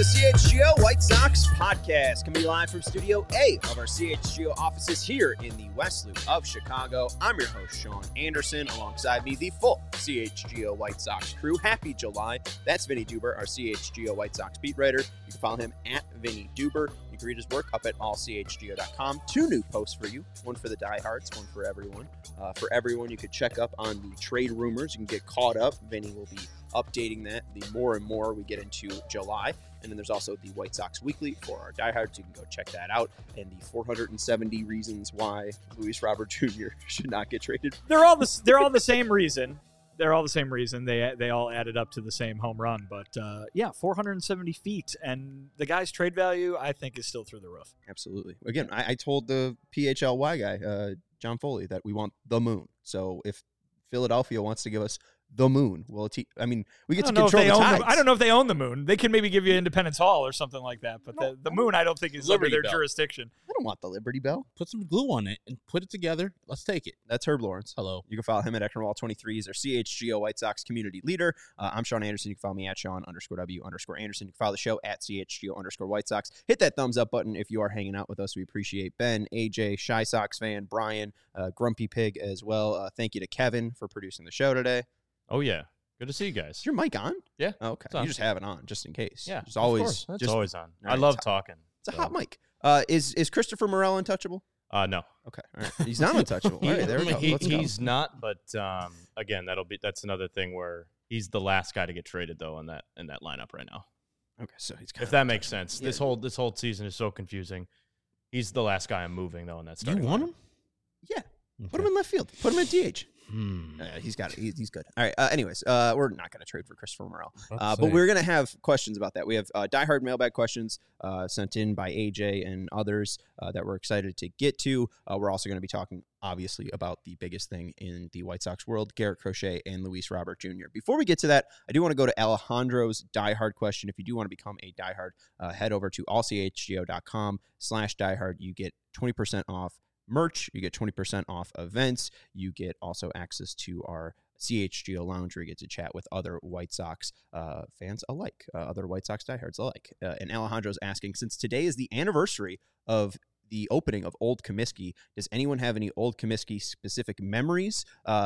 the CHGO White Sox podcast, coming live from Studio A of our CHGO offices here in the West Loop of Chicago. I'm your host, Sean Anderson. Alongside me, the full CHGO White Sox crew. Happy July. That's Vinny Duber, our CHGO White Sox beat writer. You can follow him at Vinny Duber. You can read his work up at allchgo.com. 2 new posts for you. One for the diehards, one for everyone. For everyone, you could check up on the trade rumors. You can get caught up. Vinny will be updating that the more and more we get into July. And then there's also the White Sox Weekly for our diehards. You can go check that out. And the 470 reasons why Luis Robert Jr. should not get traded. They're all the same reason. They're all the same reason. They all added up to the same home run. But, 470 feet. And the guy's trade value, I think, is still through the roof. Absolutely. Again, I told the PHLY guy, John Foley, that we want the moon. So if Philadelphia wants to give us the moon, well, we get to control the tides. I don't know if they own the moon. They can maybe give you Independence Hall or something like that. But the moon, I don't think is under their jurisdiction. I don't want the Liberty Bell. Put some glue on it and put it together. Let's take it. That's Herb Lawrence. Hello. You can follow him at Ecknerwall23. He's our CHGO White Sox community leader. I'm Sean Anderson. You can follow me at Sean_W_Anderson. You can follow the show at CHGO_White Sox. Hit that thumbs up button if you are hanging out with us. We appreciate Ben, AJ, Shy Sox fan, Brian, Grumpy Pig as well. Thank you to Kevin for producing the show today. Oh, yeah. Good to see you guys. Is your mic on? Yeah. Oh, okay. You just have it on just in case. Yeah. Just always. It's always on. Right, I love talking. It's a hot mic. Is Christopher Morel untouchable? No. Okay. All right. He's not untouchable. All right, there we go. He's not, but again, that's another thing where he's the last guy to get traded though in that lineup right now. Okay, so he's if that makes sense. Yeah. This whole season is so confusing. He's the last guy I'm moving though in that starting. You want him? Yeah. Okay. Put him in left field. Put him at DH. He's got it. He's good. All right. Anyways, we're not going to trade for Christopher Morel, but we're going to have questions about that. We have diehard mailbag questions sent in by AJ and others that we're excited to get to. We're also going to be talking, obviously, about the biggest thing in the White Sox world, Garrett Crochet and Luis Robert Jr. Before we get to that, I do want to go to Alejandro's diehard question. If you do want to become a diehard, head over to allchgo.com/diehard. You get 20% off merch, you get 20% off events, you get also access to our CHGO lounge where you get to chat with other White Sox fans alike, other White Sox diehards alike. And Alejandro's asking, since today is the anniversary of the opening of Old Comiskey, does anyone have any Old Comiskey specific memories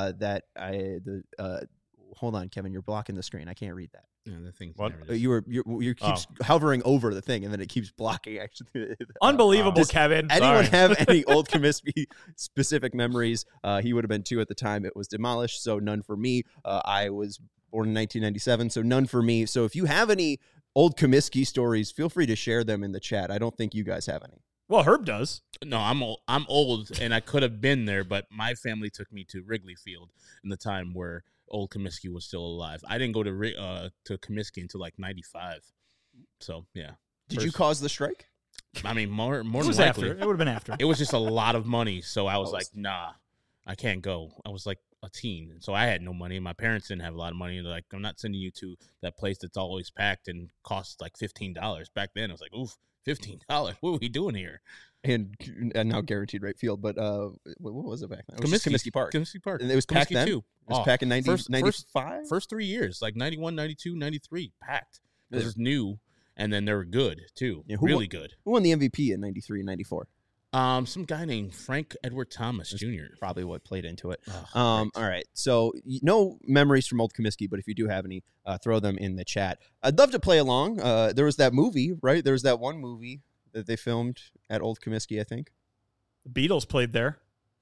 hold on, Kevin, you're blocking the screen. I can't read that. Yeah, the thing's you keeps hovering over the thing, and then it keeps blocking. Actually, unbelievable, Kevin. Anyone have any Old Comiskey specific memories? He would have been 2 at the time it was demolished, so none for me. I was born in 1997, so none for me. So if you have any Old Comiskey stories, feel free to share them in the chat. I don't think you guys have any. Well, Herb does. No, I'm old, and I could have been there, but my family took me to Wrigley Field in the time where Old Comiskey was still alive. I didn't go to Comiskey until like 95. So, yeah. Did you cause the strike? I mean, more than likely. After. It would have been after. It was just a lot of money, so I was like, nah, I can't go. I was like a teen, and so I had no money, and my parents didn't have a lot of money. They're like, I'm not sending you to that place that's always packed and costs like $15. Back then, I was like, oof, $15. What are we doing here? And now guaranteed right field, but what was it back then? It was Comiskey Park. Comiskey Park. And it was packed then? Too. It was packed in 95? First 3 years, like 91, 92, 93, packed. It was new, and then they were good, too. Yeah, really good. Who won the MVP in 93 and 94? Some guy named Frank Edward Thomas Jr. Probably what played into it. All right. So no memories from Old Comiskey, but if you do have any, throw them in the chat. I'd love to play along. There was that movie, right? There was that one movie that they filmed at Old Comiskey, I think. The Beatles played there.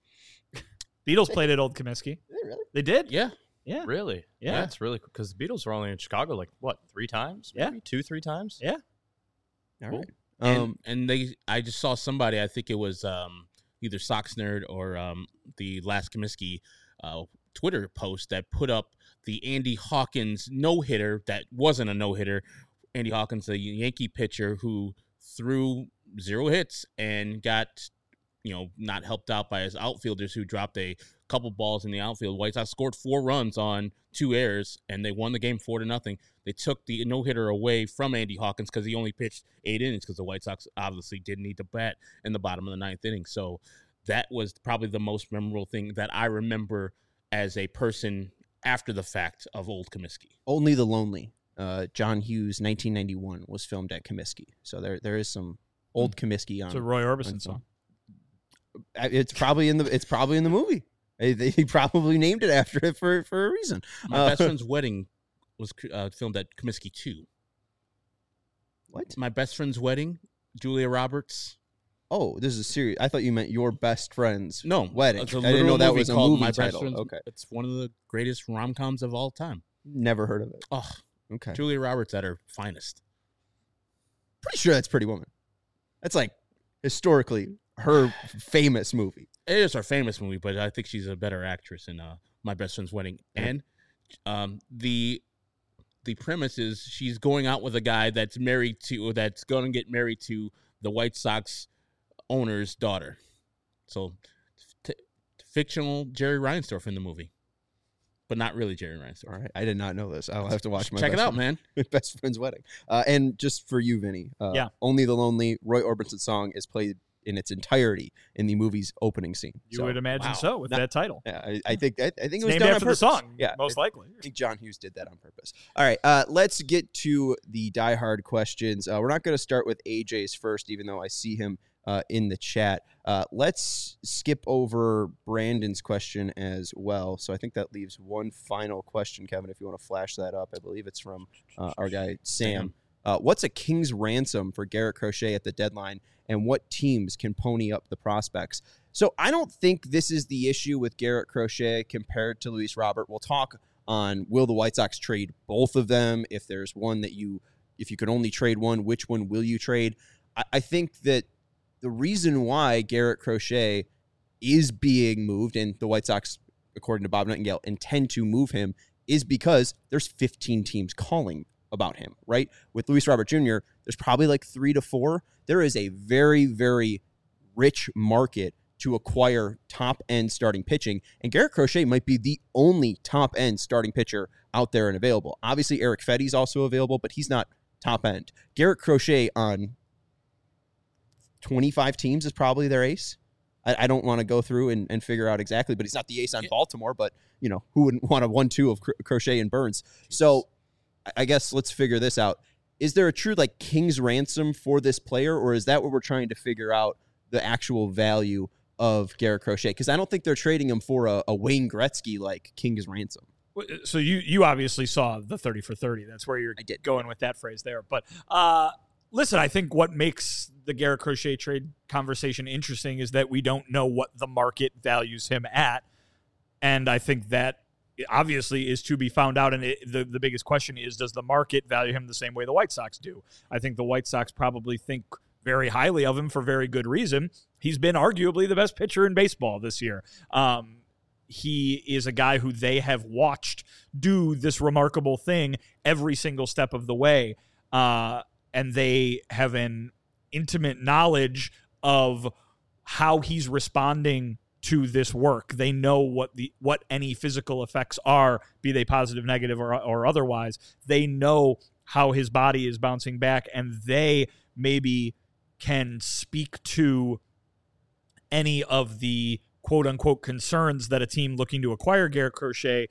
Beatles played at Old Comiskey. Did they really? They did? Yeah. Yeah. Really? Yeah. That's really cool. Because the Beatles were only in Chicago, 3 times? Maybe? 2-3 times? Yeah. All cool. right. And I just saw somebody, I think it was either Sox Nerd or the Last Comiskey Twitter post that put up the Andy Hawkins no-hitter that wasn't a no-hitter. Andy Hawkins, the Yankee pitcher who threw 0 hits and got, not helped out by his outfielders who dropped a couple balls in the outfield. White Sox scored 4 runs on 2 errors, and they won the game 4-0. They took the no-hitter away from Andy Hawkins because he only pitched 8 innings because the White Sox obviously didn't need to bat in the bottom of the 9th inning. So that was probably the most memorable thing that I remember as a person after the fact of Old Comiskey. Only the Lonely John Hughes 1991 was filmed at Comiskey. So there is some old Comiskey on. It's a Roy Orbison song. It's probably in the movie. He probably named it after it for a reason. My best friend's wedding was filmed at Comiskey 2. What? My best friend's wedding, Julia Roberts. Oh, this is a series. I thought you meant your best friend's wedding. It's a I didn't know that was a movie My title. Best Friend's, okay, it's one of the greatest rom-coms of all time. Never heard of it. Oh, okay. Julia Roberts at her finest. Pretty sure that's Pretty Woman. That's like historically her famous movie. It is her famous movie, but I think she's a better actress in My Best Friend's Wedding. And the premise is she's going out with a guy that's going to get married to the White Sox owner's daughter. So fictional Jerry Reinsdorf in the movie, but not really Jerry Reinsdorf. All right, I did not know this. I'll have to watch Check it out, man. Best Friend's Wedding. And just for you, Vinny, Only the Lonely, Roy Orbison song is played in its entirety in the movie's opening scene. You would imagine so with that title. Yeah, I think it was named done after on purpose. the song. Yeah, most likely. I think John Hughes did that on purpose. All right, let's get to the Die Hard questions. We're not going to start with AJ's first, even though I see him in the chat. Let's skip over Brandon's question as well. So I think that leaves one final question, Kevin, if you want to flash that up. I believe it's from our guy, Sam. What's a king's ransom for Garrett Crochet at the deadline, and what teams can pony up the prospects? So I don't think this is the issue with Garrett Crochet compared to Luis Robert. We'll talk on will the White Sox trade both of them? If there's one that if you could only trade one, which one will you trade? I think that the reason why Garrett Crochet is being moved, and the White Sox, according to Bob Nightingale, intend to move him, is because there's 15 teams calling about him, right? With Luis Robert Jr., there's probably like 3 to 4. There is a very, very rich market to acquire top-end starting pitching, and Garrett Crochet might be the only top-end starting pitcher out there and available. Obviously, Eric Fetty's also available, but he's not top-end. Garrett Crochet on 25 teams is probably their ace. I don't want to go through and figure out exactly, but he's not the ace on Baltimore, but, who wouldn't want a 1-2 of Crochet and Burns? So I guess let's figure this out. Is there a true king's ransom for this player, or is that what we're trying to figure out, the actual value of Garrett Crochet? Because I don't think they're trading him for a Wayne Gretzky king's ransom. So you obviously saw the 30 for 30. That's where you're going with that phrase there. But listen, I think what makes the Garrett Crochet trade conversation interesting is that we don't know what the market values him at, and I think that obviously is to be found out. And the biggest question is, does the market value him the same way the White Sox do? I think the White Sox probably think very highly of him for very good reason. He's been arguably the best pitcher in baseball this year. He is a guy who they have watched do this remarkable thing every single step of the way. And they have an intimate knowledge of how he's responding to this work. They know what any physical effects are, be they positive, negative, or otherwise. They know how his body is bouncing back, and they maybe can speak to any of the quote-unquote concerns that a team looking to acquire Garrett Crochet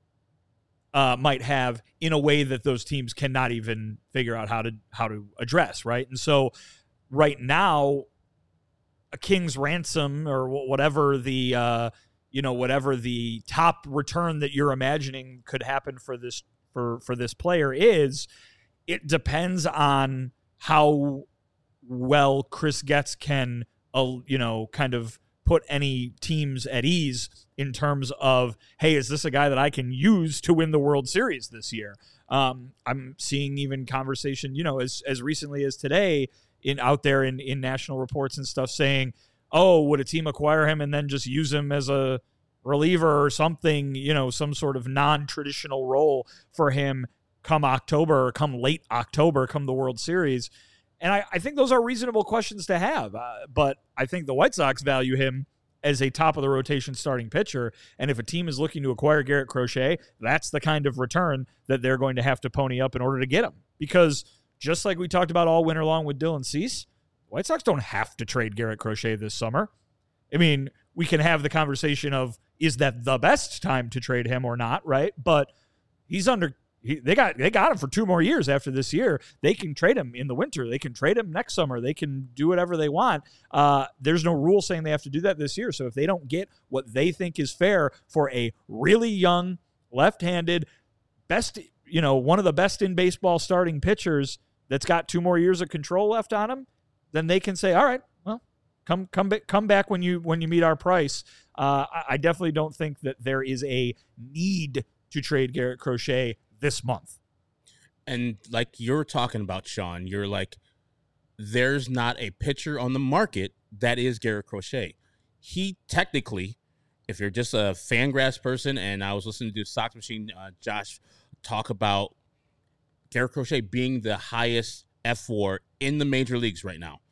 might have in a way that those teams cannot even figure out how to address, right? And so right now, a king's ransom or whatever the whatever the top return that you're imagining could happen for this player is, it depends on how well Chris Getz can kind of put any teams at ease in terms of, hey, is this a guy that I can use to win the World Series this year? I'm seeing even conversation, as recently as today out there in national reports and stuff saying, oh, would a team acquire him and then just use him as a reliever or something, some sort of non-traditional role for him come October or come late October, come the World Series? And I think those are reasonable questions to have. But I think the White Sox value him as a top-of-the-rotation starting pitcher. And if a team is looking to acquire Garrett Crochet, that's the kind of return that they're going to have to pony up in order to get him. Because just like we talked about all winter long with Dylan Cease, the White Sox don't have to trade Garrett Crochet this summer. I mean, we can have the conversation of, is that the best time to trade him or not, right? But he's under They got him for 2 more years after this year. They can trade him in the winter. They can trade him next summer. They can do whatever they want. There's no rule saying they have to do that this year. So if they don't get what they think is fair for a really young, left-handed, one of the best in baseball starting pitchers that's got 2 more years of control left on him, then they can say, all right, well, come back when you meet our price. I definitely don't think that there is a need to trade Garrett Crochet this month. And like you're talking about, Sean, you're like, there's not a pitcher on the market that is Garrett Crochet. He technically, if you're just a Fangraphs person, and I was listening to Sox Machine, Josh, talk about Garrett Crochet being the highest F4 in the major leagues right now.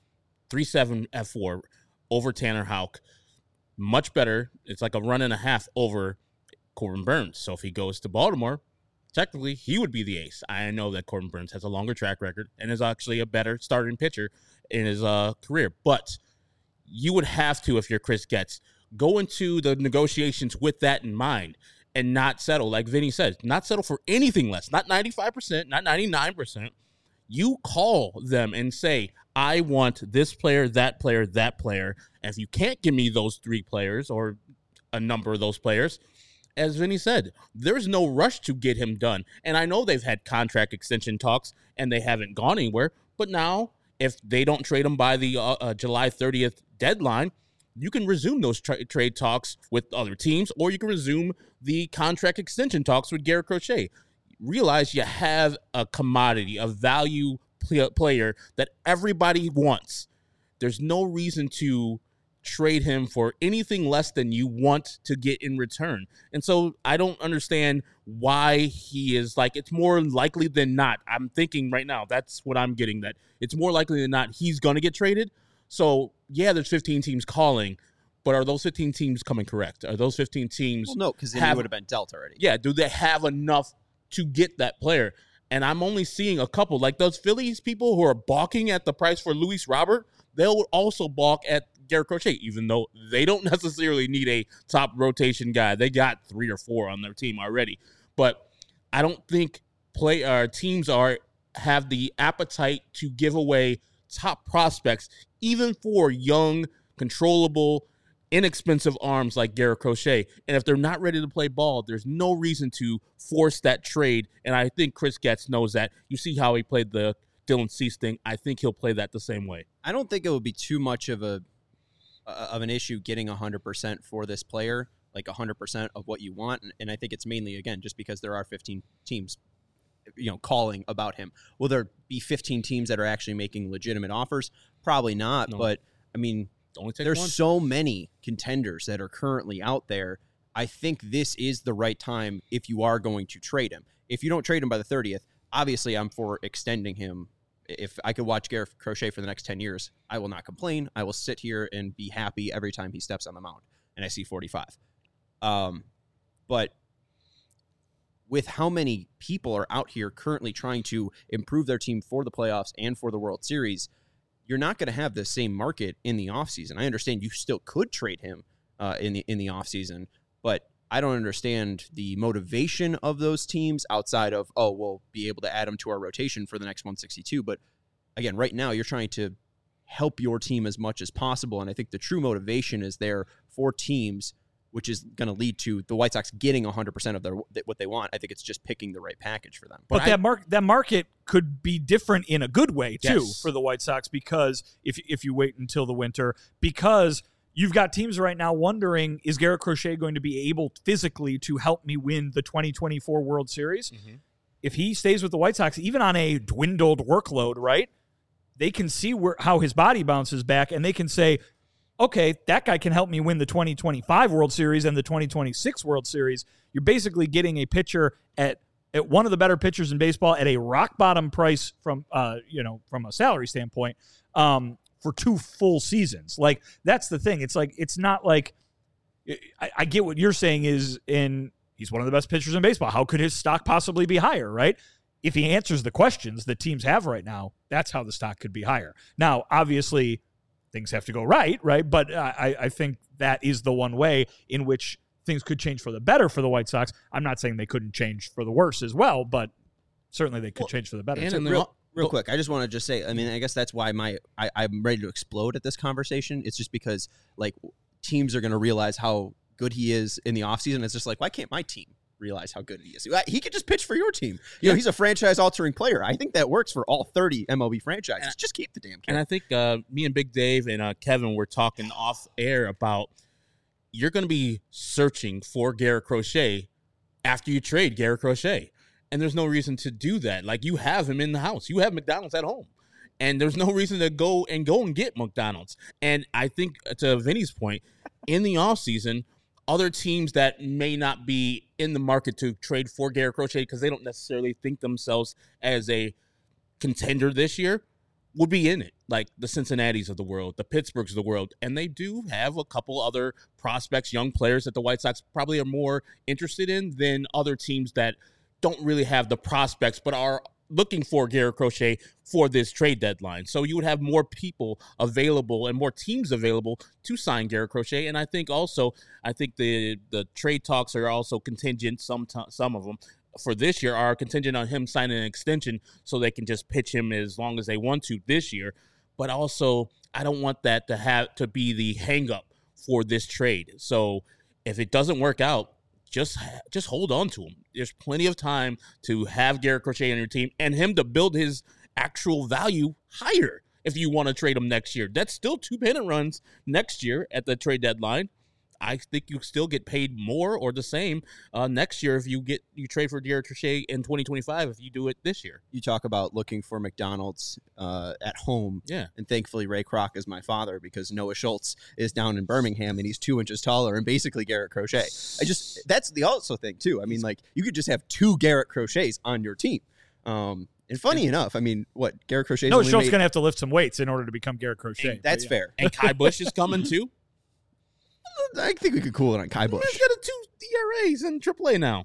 3.7 F4 over Tanner Houck. Much better. It's like a run and a half over Corbin Burns. So if he goes to Baltimore, technically he would be the ace. I know that Corbin Burns has a longer track record and is actually a better starting pitcher in his career. But you would have to, if you're Chris Getz, go into the negotiations with that in mind and not settle. Like Vinny said, not settle for anything less. Not 95%, not 99%. You call them and say, I want this player, that player, that player. And if you can't give me those 3 players or a number of those players, as Vinny said, there's no rush to get him done. And I know they've had contract extension talks and they haven't gone anywhere. But now, if they don't trade him by the July 30th deadline, you can resume those trade talks with other teams, or you can resume the contract extension talks with Garrett Crochet. Realize you have a commodity, a value player that everybody wants. There's no reason to trade him for anything less than you want to get in return. And so I don't understand why he is like, it's more likely than not. I'm thinking right now, that's what I'm getting, that it's more likely than not he's going to get traded. So yeah, there's 15 teams calling, but are those 15 teams coming correct? Are those 15 teams? Well, no, because then he would have been dealt already. Yeah, do they have enough to get that player? And I'm only seeing a couple, like those Phillies people who are balking at the price for Luis Robert. They'll also balk at Garrett Crochet, even though they don't necessarily need a top rotation guy. They got 3 or 4 on their team already. But I don't think teams have the appetite to give away top prospects, even for young, controllable, inexpensive arms like Garrett Crochet. And if they're not ready to play ball, there's no reason to force that trade. And I think Chris Getz knows that. You see how he played the Dylan Cease thing. I think he'll play that the same way. I don't think it would be too much of an issue getting 100% for this player, like 100% of what you want. And I think it's mainly, again, just because there are 15 teams, calling about him. Will there be 15 teams that are actually making legitimate offers? Probably not. No. But I mean, there's so many contenders that are currently out there. I think this is the right time if you are going to trade him. If you don't trade him by the 30th, obviously I'm for extending him. If I could watch Garrett Crochet for the next 10 years, I will not complain. I will sit here and be happy every time he steps on the mound and I see 45. But with how many people are out here currently trying to improve their team for the playoffs and for the World Series, you're not going to have the same market in the offseason. I understand you still could trade him in the offseason, but I don't understand the motivation of those teams outside of, we'll be able to add them to our rotation for the next 162. But again, right now you're trying to help your team as much as possible. And I think the true motivation is there for teams, which is going to lead to the White Sox getting 100% of what they want. I think it's just picking the right package for them. But that market could be different in a good way too, yes, for the White Sox, because if you wait until the winter, because you've got teams right now wondering, is Garrett Crochet going to be able physically to help me win the 2024 World Series? Mm-hmm. If he stays with the White Sox, even on a dwindled workload, right, they can see how his body bounces back, and they can say, okay, that guy can help me win the 2025 World Series and the 2026 World Series. You're basically getting a pitcher at one of the better pitchers in baseball at a rock bottom price from a salary standpoint, for 2 full seasons. Like, that's the thing. It's like, it's not like, I get what you're saying he's one of the best pitchers in baseball. How could his stock possibly be higher, right? If he answers the questions that teams have right now, that's how the stock could be higher. Now, obviously, things have to go right? But I think that is the one way in which things could change for the better for the White Sox. I'm not saying they couldn't change for the worse as well, but certainly they could change for the better. And real quick, I just want to just say, I mean, I guess that's why I'm ready to explode at this conversation. It's just because, like, teams are going to realize how good he is in the offseason. It's just like, why can't my team realize how good he is? He could just pitch for your team. You know, he's a franchise-altering player. I think that works for all 30 MLB franchises. Just keep the damn kid. And I think me and Big Dave and Kevin were talking off air about you're going to be searching for Garrett Crochet after you trade Garrett Crochet. And there's no reason to do that. Like, you have him in the house. You have McDonald's at home. And there's no reason to go and get McDonald's. And I think, to Vinny's point, in the offseason, other teams that may not be in the market to trade for Garrett Crochet because they don't necessarily think themselves as a contender this year would be in it, like the Cincinnatis of the world, the Pittsburghs of the world. And they do have a couple other prospects, young players that the White Sox probably are more interested in than other teams that don't really have the prospects but are looking for Garrett Crochet for this trade deadline. So you would have more people available and more teams available to sign Garrett Crochet. And I think the trade talks are also contingent, some of them for this year are contingent on him signing an extension so they can just pitch him as long as they want to this year. But also, I don't want that to be the hang up for this trade. So if it doesn't work out, just hold on to him. There's plenty of time to have Garrett Crochet on your team and him to build his actual value higher if you want to trade him next year. That's still 2 pennant runs next year at the trade deadline. I think you still get paid more or the same next year if you trade for Garrett Crochet in 2025 if you do it this year. You talk about looking for McDonald's at home. Yeah. And thankfully Ray Kroc is my father because Noah Schultz is down in Birmingham and he's 2 inches taller and basically Garrett Crochet. That's the also thing too. I mean, like, you could just have 2 Garrett Crochets on your team. And funny enough, I mean, Garrett Crochet? No, Schultz going to have to lift some weights in order to become Garrett Crochet. That's fair. And Kai Busch is coming too. I think we could cool it on Kai Busch. He's got 2 ERAs in AAA now.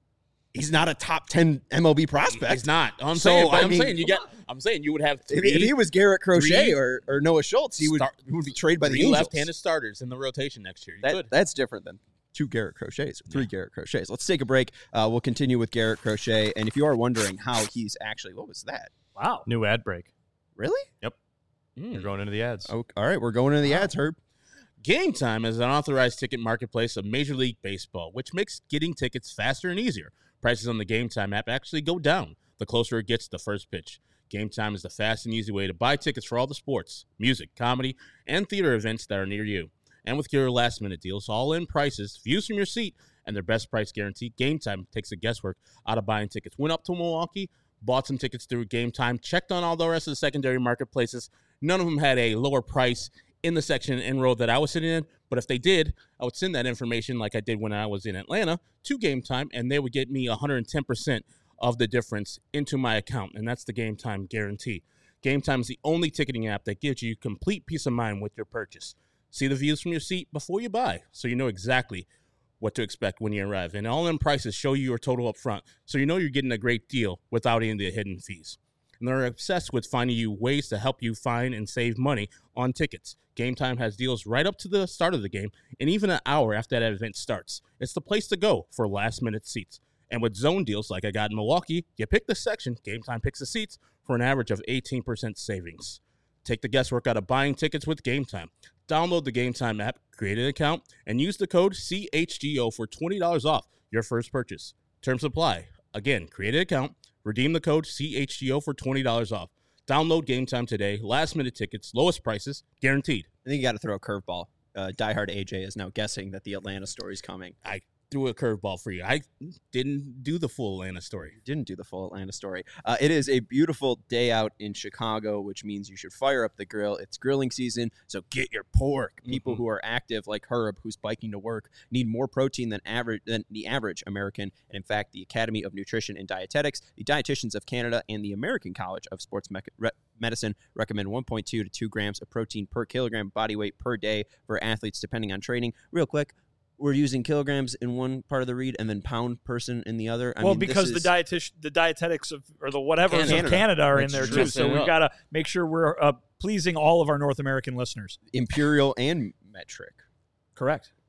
He's not a top 10 MLB prospect. He's not. I'm saying you would have 3. If he was Garrett Crochet or Noah Schultz, he would be traded by the Angels. 3 left-handed starters in the rotation next year. That's different than 2 Garrett Crochets, 3 Garrett Crochets. Let's take a break. We'll continue with Garrett Crochet. And if you are wondering how he's actually, what was that? Wow. New ad break. Really? Yep. We're going into the ads. Oh, all right, we're going into the ads, Herb. Game Time is an authorized ticket marketplace of Major League Baseball, which makes getting tickets faster and easier. Prices on the Game Time app actually go down the closer it gets to the first pitch. Game Time is the fast and easy way to buy tickets for all the sports, music, comedy, and theater events that are near you. And with your last-minute deals, all-in prices, views from your seat, and their best price guarantee, Game Time takes the guesswork out of buying tickets. Went up to Milwaukee, bought some tickets through Game Time, checked on all the rest of the secondary marketplaces. None of them had a lower price in the section and row that I was sitting in, but if they did, I would send that information like I did when I was in Atlanta to Game Time, and they would get me 110% of the difference into my account, and that's the Game Time guarantee. Game Time is the only ticketing app that gives you complete peace of mind with your purchase. See the views from your seat before you buy, so you know exactly what to expect when you arrive, and all-in prices show you your total up front, so you know you're getting a great deal without any of the hidden fees. And they're obsessed with finding you ways to help you find and save money on tickets. Game Time has deals right up to the start of the game and even an hour after that event starts. It's the place to go for last-minute seats. And with zone deals like I got in Milwaukee, you pick the section, Game Time picks the seats for an average of 18% savings. Take the guesswork out of buying tickets with Game Time. Download the Game Time app, create an account, and use the code CHGO for $20 off your first purchase. Terms apply. Again, create an account, redeem the code CHGO for $20 off. Download Game Time today. Last-minute tickets, lowest prices, guaranteed. I think you got to throw a curveball. Diehard AJ is now guessing that the Atlanta story is coming. I threw a curveball for you. I didn't do the full Atlanta story. Didn't do the full Atlanta story. It is a beautiful day out in Chicago, which means you should fire up the grill. It's grilling season, so get your pork. People who are active, like Herb, who's biking to work, need more protein than the average American. And in fact, the Academy of Nutrition and Dietetics, the Dietitians of Canada, and the American College of Sports Medicine recommend 1.2 to 2 grams of protein per kilogram body weight per day for athletes, depending on training. Real quick, we're using kilograms in one part of the read and then pound person in the other. I mean, because the dietetics of the whatevers of Canada are in there too. So we've got to make sure we're pleasing all of our North American listeners. Imperial and metric. Correct.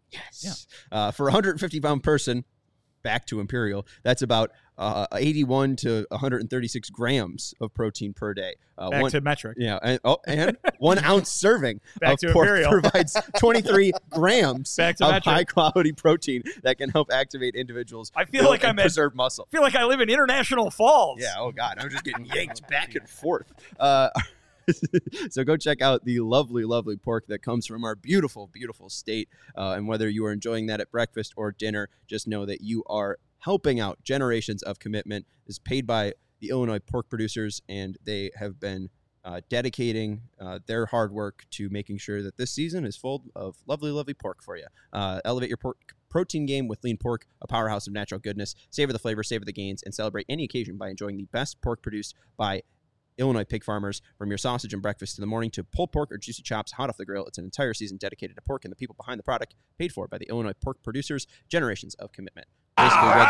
Yes. Yeah. For a 150-pound person, back to Imperial, that's about 81 to 136 grams of protein per day. Back to metric. Yeah, and 1 ounce serving Back of to pork Imperial. provides 23 grams Back to of metric. high-quality protein that can help activate individuals. I feel like and I'm at- preserve muscle. I feel like I live in International Falls. Yeah. Oh God, I'm just getting yanked back and forth. So go check out the lovely, lovely pork that comes from our beautiful, beautiful state. And whether you are enjoying that at breakfast or dinner, just know that you are helping out. Generations of Commitment is paid by the Illinois pork producers, and they have been dedicating their hard work to making sure that this season is full of lovely, lovely pork for you. Elevate your pork protein game with Lean Pork, a powerhouse of natural goodness. Savor the flavor, savor the gains, and celebrate any occasion by enjoying the best pork produced by Illinois pig farmers. From your sausage and breakfast in the morning to pulled pork or juicy chops hot off the grill, it's an entire season dedicated to pork and the people behind the product, paid for by the Illinois pork producers. Generations of Commitment. Basically read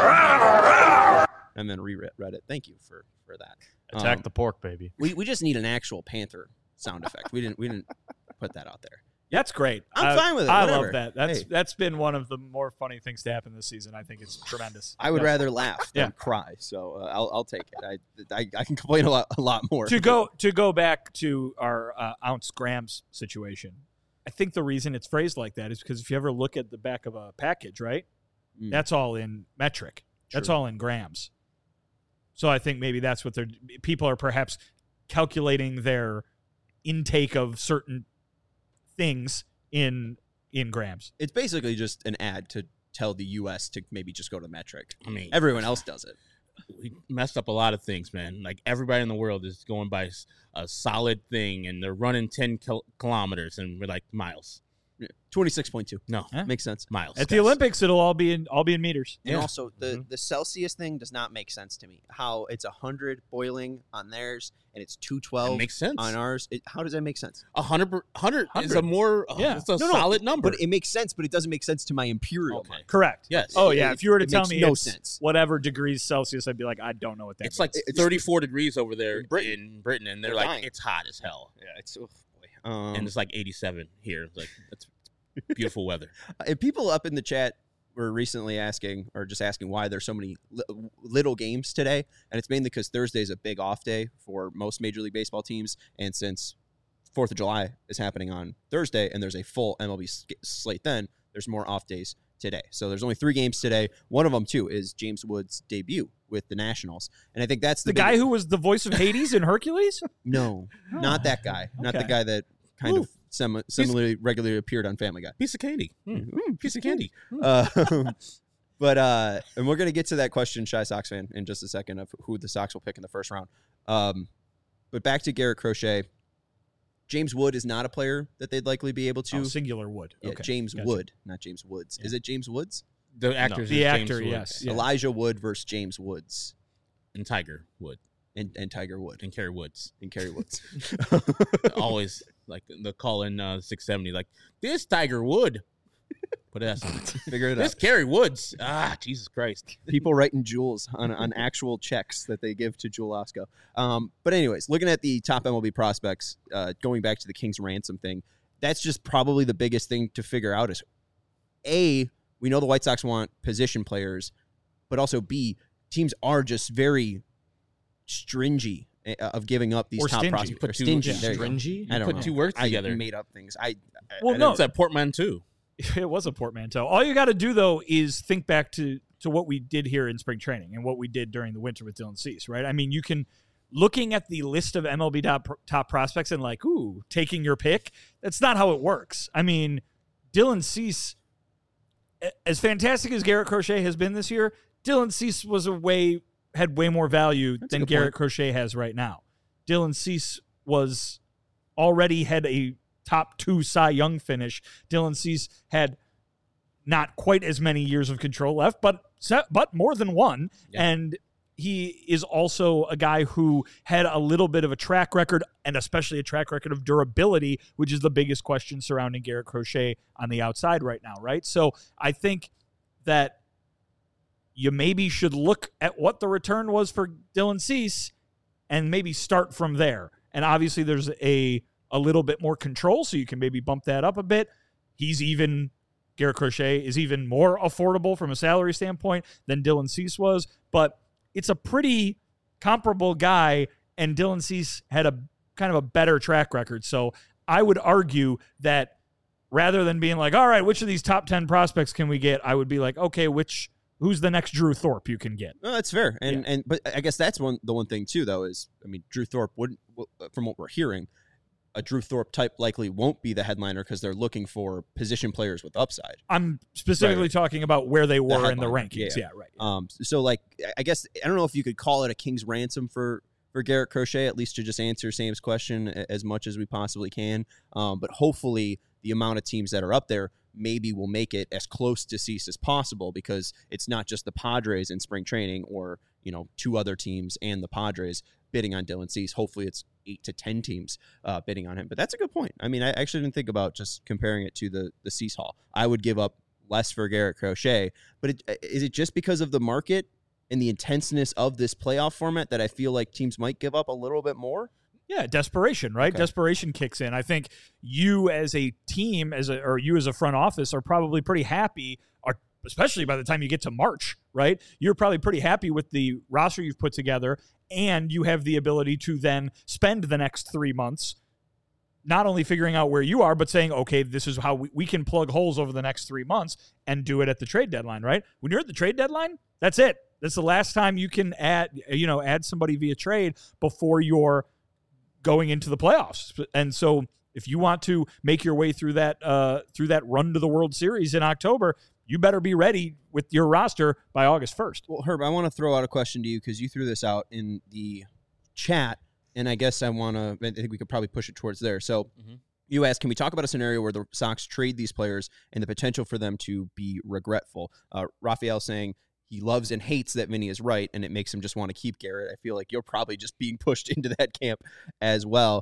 that and then reread it. Thank you for that. Attack the pork, baby. We just need an actual panther sound effect. We didn't put that out there. That's great. I'm fine with it. I Whatever. love that. Hey. That's been one of the more funny things to happen this season. I think it's tremendous. I would Yes. rather laugh than cry, so I'll take it. I can complain a lot more. To go back to our ounce grams situation. I think the reason it's phrased like that is because if you ever look at the back of a package, right, that's all in metric. That's True. all in grams. So I think maybe that's what people are perhaps calculating their intake of certain things in grams. It's basically just an ad to tell the U.S. to maybe just go to metric. I mean, Everyone else does it. we messed up a lot of things, man. Like everybody in the world is going by a solid thing, and they're running 10 kilometers, and we're like miles. 26.2. No, Yeah. Makes sense. miles. At the Olympics, it'll all be in meters. And Yeah. also, the Celsius thing does not make sense to me. How it's 100 boiling on theirs and it's 212 It makes sense. on ours. How does that make sense? 100 is a more it's a No, solid number. But it makes sense, but it doesn't make sense to my imperial Okay. mind. Correct. Yes. Oh yeah. If you were to It tell makes me no it's sense. whatever degrees Celsius, I'd be like, I don't know what that It's means. like 34 degrees over there In Britain. in Britain, and they're They're like, dying. it's hot as hell. Yeah, it's boy. And it's like 87 here. It's like, that's beautiful weather. And people up in the chat were recently asking why there's so many little games today, and it's mainly because Thursday is a big off day for most Major League Baseball teams, and since 4th of July is happening on Thursday and there's a full MLB slate, then there's more off days today. So there's only 3 games today. One of them too is James Wood's debut with the Nationals, and I think that's the guy who was the voice of Hades in Hercules. No, not that guy. Not the Okay. guy that kind of similarly regularly appeared on Family Guy. Piece of candy. Piece of candy. But and we're gonna get to that question, Shy Sox fan, in just a second of who the Sox will pick in the first round. But back to Garrett Crochet. James Wood is not a player that they'd likely be able to. Oh, singular Wood. Yeah, Okay. James Gotcha. Wood, not James Woods. Yeah. Is it James Woods? The actor is The James actor, Woods. yes. Yeah. Elijah Wood versus James Woods And Tiger Wood. and Tiger Wood And Kerry Woods. and Kerry Woods. Always like the call in 670, like, this Tiger Wood. What else? Figure it This out. Kerry Woods. Jesus Christ. People writing jewels on actual checks that they give to Jewel Osco. But anyways, looking at the top MLB prospects, going back to the King's ransom thing, that's just probably the biggest thing to figure out is, A, we know the White Sox want position players, but also B, teams are just very stringy of giving up these Or top stingy. prospects. Put Or two- stingy. yeah. There you go. Stringy? I don't Put know. two words together. I made up things. Well, I no. It's that portmanteau. It was a portmanteau. All you got to do, though, is think back to what we did here in spring training and what we did during the winter with Dylan Cease, right? I mean, you can, looking at the list of MLB top prospects and like, ooh, taking your pick, that's not how it works. I mean, Dylan Cease, as fantastic as Garrett Crochet has been this year, Dylan Cease had way more value That's a than good Garrett point. Crochet has right now. Dylan Cease already had a top 2 Cy Young finish. Dylan Cease had not quite as many years of control left, but more than one. Yeah. And he is also a guy who had a little bit of a track record, and especially a track record of durability, which is the biggest question surrounding Garrett Crochet on the outside right now, right? So I think that you maybe should look at what the return was for Dylan Cease and maybe start from there. And obviously there's a little bit more control, so you can maybe bump that up a bit. He's even Garrett Crochet is even more affordable from a salary standpoint than Dylan Cease was, but it's a pretty comparable guy, and Dylan Cease had a kind of a better track record. So I would argue that rather than being like, all right, which of these top 10 prospects can we get? I would be like, okay, who's the next Drew Thorpe you can get? No, that's fair. But I guess that's the one thing too, though, is, I mean, Drew Thorpe wouldn't, from what we're hearing, a Drew Thorpe type likely won't be the headliner because they're looking for position players with upside. I'm specifically talking about where they were in the rankings. Yeah, right. So, like, I guess, I don't know if you could call it a king's ransom for Garrett Crochet, at least to just answer Sam's question as much as we possibly can. But hopefully the amount of teams that are up there maybe will make it as close to Cease as possible, because it's not just the Padres in spring training or, two other teams and the Padres bidding on Dylan Cease. Hopefully it's 8 to 10 teams bidding on him. But that's a good point. I mean, I actually didn't think about just comparing it to the Cease haul. I would give up less for Garrett Crochet, but is it just because of the market and the intenseness of this playoff format that I feel like teams might give up a little bit more? Yeah, desperation, right? Okay. Desperation kicks in. I think you as a team, or you as a front office, are probably pretty happy, especially by the time you get to March, right? You're probably pretty happy with the roster you've put together, and you have the ability to then spend the next 3 months not only figuring out where you are, but saying, okay, this is how we can plug holes over the next 3 months and do it at the trade deadline, right? When you're at the trade deadline, that's it. That's the last time you can add somebody via trade before you're going into the playoffs. And so if you want to make your way through that run to the World Series in October, you better be ready with your roster by August 1st. Well, Herb, I want to throw out a question to you because you threw this out in the chat, and I guess I think we could probably push it towards there. So you asked, can we talk about a scenario where the Sox trade these players and the potential for them to be regretful? Raphael saying he loves and hates that Vinny is right, and it makes him just want to keep Garrett. I feel like you're probably just being pushed into that camp as well.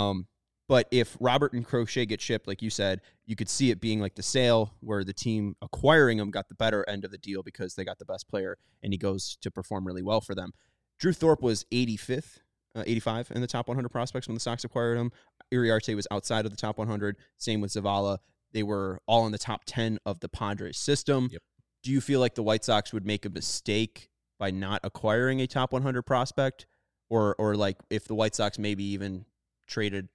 But if Robert and Crochet get shipped, like you said, you could see it being like the sale where the team acquiring him got the better end of the deal because they got the best player, and he goes to perform really well for them. Drew Thorpe was 85 in the top 100 prospects when the Sox acquired him. Iriarte was outside of the top 100. Same with Zavala. They were all in the top 10 of the Padres system. Yep. Do you feel like the White Sox would make a mistake by not acquiring a top 100 prospect? Or like if the White Sox maybe even traded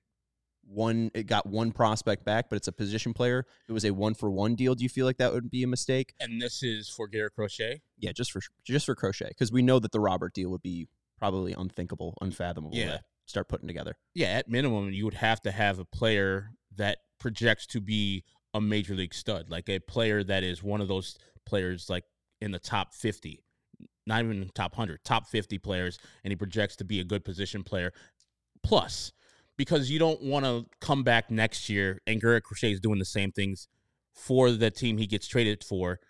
it got one prospect back, but it's a position player, it was a 1-for-1 deal, do you feel like that would be a mistake? And this is for Garrett Crochet? Yeah, just for Crochet, because we know that the Robert deal would be probably unthinkable, unfathomable to start putting together. Yeah, at minimum, you would have to have a player that projects to be a major league stud, like a player that is one of those players like in the top 50, not even the top 100, top 50 players, and he projects to be a good position player. Plus, because you don't want to come back next year and Garrett Crochet is doing the same things for the team he gets traded for,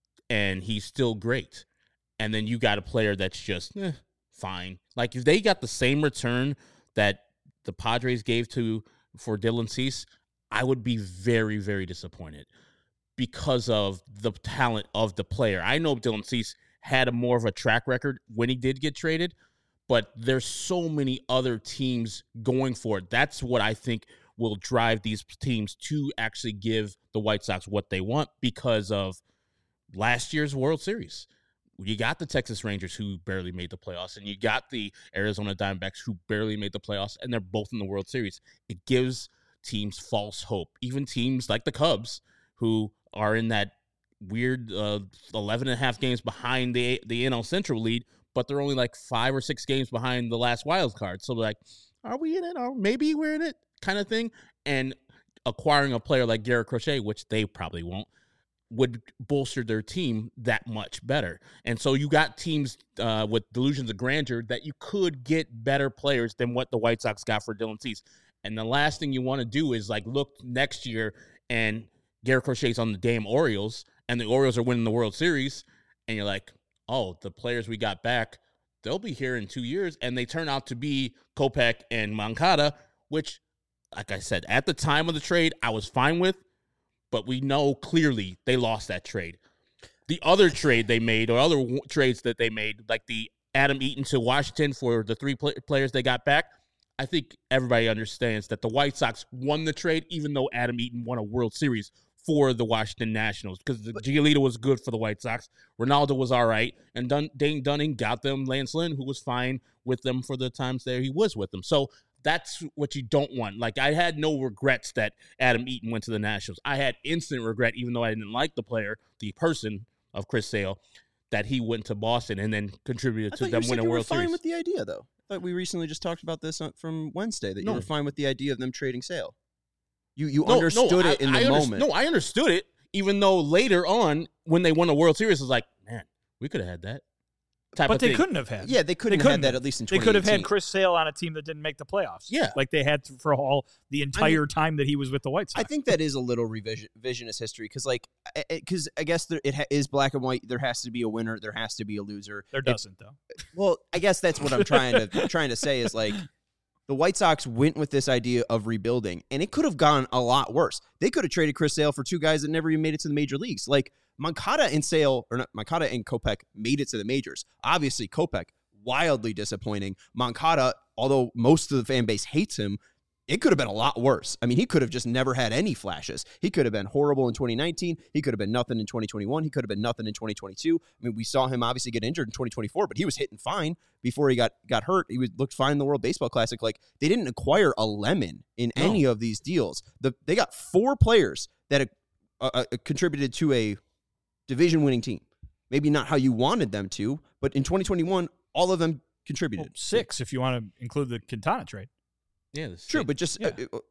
and he's still great. And then you got a player that's just fine. Like if they got the same return that the Padres gave for Dylan Cease, I would be very, very disappointed because of the talent of the player. I know Dylan Cease had more of a track record when he did get traded, but there's so many other teams going for it. That's what I think will drive these teams to actually give the White Sox what they want because of last year's World Series. You got the Texas Rangers who barely made the playoffs, and you got the Arizona Diamondbacks who barely made the playoffs, and they're both in the World Series. It gives teams false hope. Even teams like the Cubs who are in that weird 11.5 games behind the NL Central lead, but they're only like 5 or 6 games behind the last wild card. So like, are we in it? Or maybe we're in it kind of thing. And acquiring a player like Garrett Crochet, which they probably won't, would bolster their team that much better. And so you got teams with delusions of grandeur that you could get better players than what the White Sox got for Dylan Cease. And the last thing you want to do is like look next year and Garrett Crochet's on the damn Orioles and the Orioles are winning the World Series. And you're like, oh, the players we got back, they'll be here in 2 years. And they turn out to be Kopech and Moncada, which, like I said, at the time of the trade, I was fine with. But we know clearly they lost that trade. The other trade they made, or other trades that they made, like the Adam Eaton to Washington for the 3 players they got back, I think everybody understands that the White Sox won the trade, even though Adam Eaton won a World Series for the Washington Nationals because Giolito was good for the White Sox. Ronaldo was all right. And Dane Dunning got them Lance Lynn, who was fine with them for the times there he was with them. So that's what you don't want. Like, I had no regrets that Adam Eaton went to the Nationals. I had instant regret, even though I didn't like the player, the person of Chris Sale, that he went to Boston and then contributed to them winning a World Series. You were fine with the idea, though. I thought we recently just talked about this from Wednesday, that you were fine with the idea of them trading Sale. You understood it in the moment. No, I understood it, even though later on, when they won a World Series, it was like, man, we could have had that. But they couldn't have had. Yeah, they couldn't have had that at least in 2018. They could have had Chris Sale on a team that didn't make the playoffs. Yeah. Like they had for the entire time that he was with the White Sox. I think that is a little revisionist history because I guess it is black and white. There has to be a winner. There has to be a loser. There doesn't, though. Well, I guess that's what I'm trying to say is like the White Sox went with this idea of rebuilding, and it could have gone a lot worse. They could have traded Chris Sale for two guys that never even made it to the major leagues. Like, Moncada and Kopech made it to the majors. Obviously, Kopech, wildly disappointing. Moncada, although most of the fan base hates him, it could have been a lot worse. I mean, he could have just never had any flashes. He could have been horrible in 2019. He could have been nothing in 2021. He could have been nothing in 2022. I mean, we saw him obviously get injured in 2024, but he was hitting fine before he got hurt. He looked fine in the World Baseball Classic. Like, they didn't acquire a lemon in any of these deals. They got 4 players that contributed to a division-winning team. Maybe not how you wanted them to, but in 2021, all of them contributed. 6 if you want to include the Quintana trade. Yeah, true, but just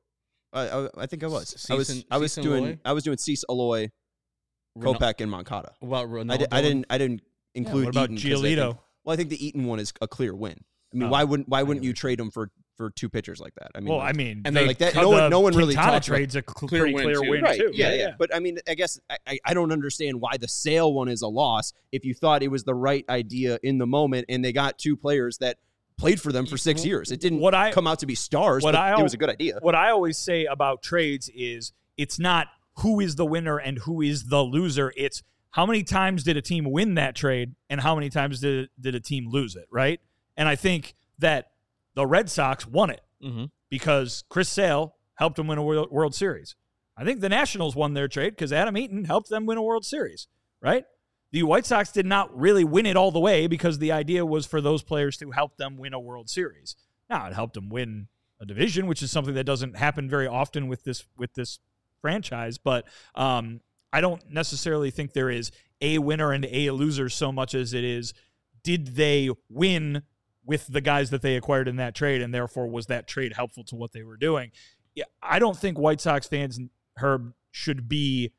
I think I was doing Cease, Aloy, Kopech, and Moncada. What about Ronaldo? I didn't include. What about Eaton Giolito? I think the Eaton one is a clear win. I mean, why wouldn't you trade him for 2 pitchers like that? I mean, and they like that. No one really talks trades about a clear win right, too. Yeah. But I mean, I guess I don't understand why the Sale one is a loss if you thought it was the right idea in the moment, and they got 2 players that played for them for 6 years. It didn't come out to be stars, but it was a good idea. What I always say about trades is it's not who is the winner and who is the loser. It's how many times did a team win that trade and how many times did a team lose it, right? And I think that the Red Sox won it because Chris Sale helped them win a World Series. I think the Nationals won their trade because Adam Eaton helped them win a World Series, right? The White Sox did not really win it all the way because the idea was for those players to help them win a World Series. Now, it helped them win a division, which is something that doesn't happen very often with this franchise. But I don't necessarily think there is a winner and a loser so much as it is, did they win with the guys that they acquired in that trade, and therefore was that trade helpful to what they were doing? Yeah, I don't think White Sox fans, Herb, should be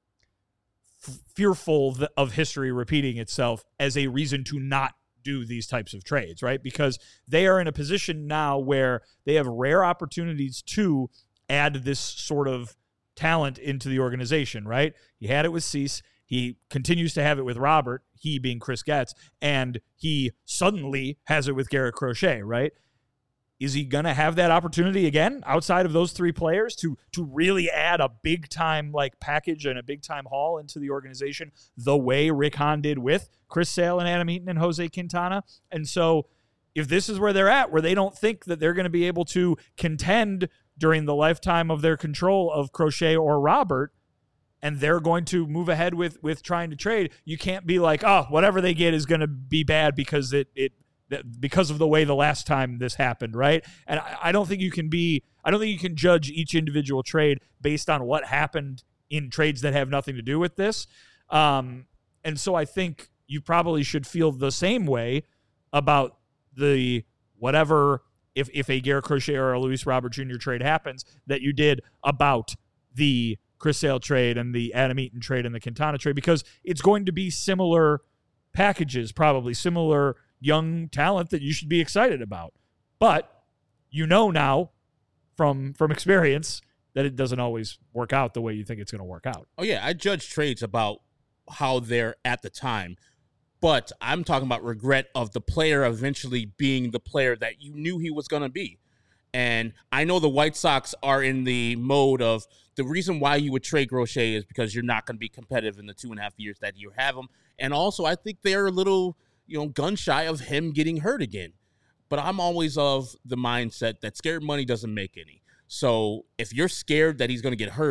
fearful of history repeating itself as a reason to not do these types of trades, right? Because they are in a position now where they have rare opportunities to add this sort of talent into the organization, right? He had it with Cease. He continues to have it with Robert, he being Chris Getz, and he suddenly has it with Garrett Crochet, right? Is he going to have that opportunity again outside of those 3 players to really add a big-time like package and a big-time haul into the organization the way Rick Hahn did with Chris Sale and Adam Eaton and Jose Quintana? And so if this is where they're at, where they don't think that they're going to be able to contend during the lifetime of their control of Crochet or Robert, and they're going to move ahead with trying to trade, you can't be like, oh, whatever they get is going to be bad because because of the way the last time this happened, right? And I don't think you can judge each individual trade based on what happened in trades that have nothing to do with this. And so I think you probably should feel the same way about the whatever, if a Garrett Crochet or a Luis Robert Jr. trade happens, that you did about the Chris Sale trade and the Adam Eaton trade and the Quintana trade, because it's going to be similar packages, probably similar young talent that you should be excited about. But you know now from experience that it doesn't always work out the way you think it's going to work out. Oh, yeah. I judge trades about how they're at the time. But I'm talking about regret of the player eventually being the player that you knew he was going to be. And I know the White Sox are in the mode of the reason why you would trade Crochet is because you're not going to be competitive in the 2.5 years that you have him. And also, I think they're a little, gun shy of him getting hurt again. But I'm always of the mindset that scared money doesn't make any. So if you're scared that he's going to get hurt,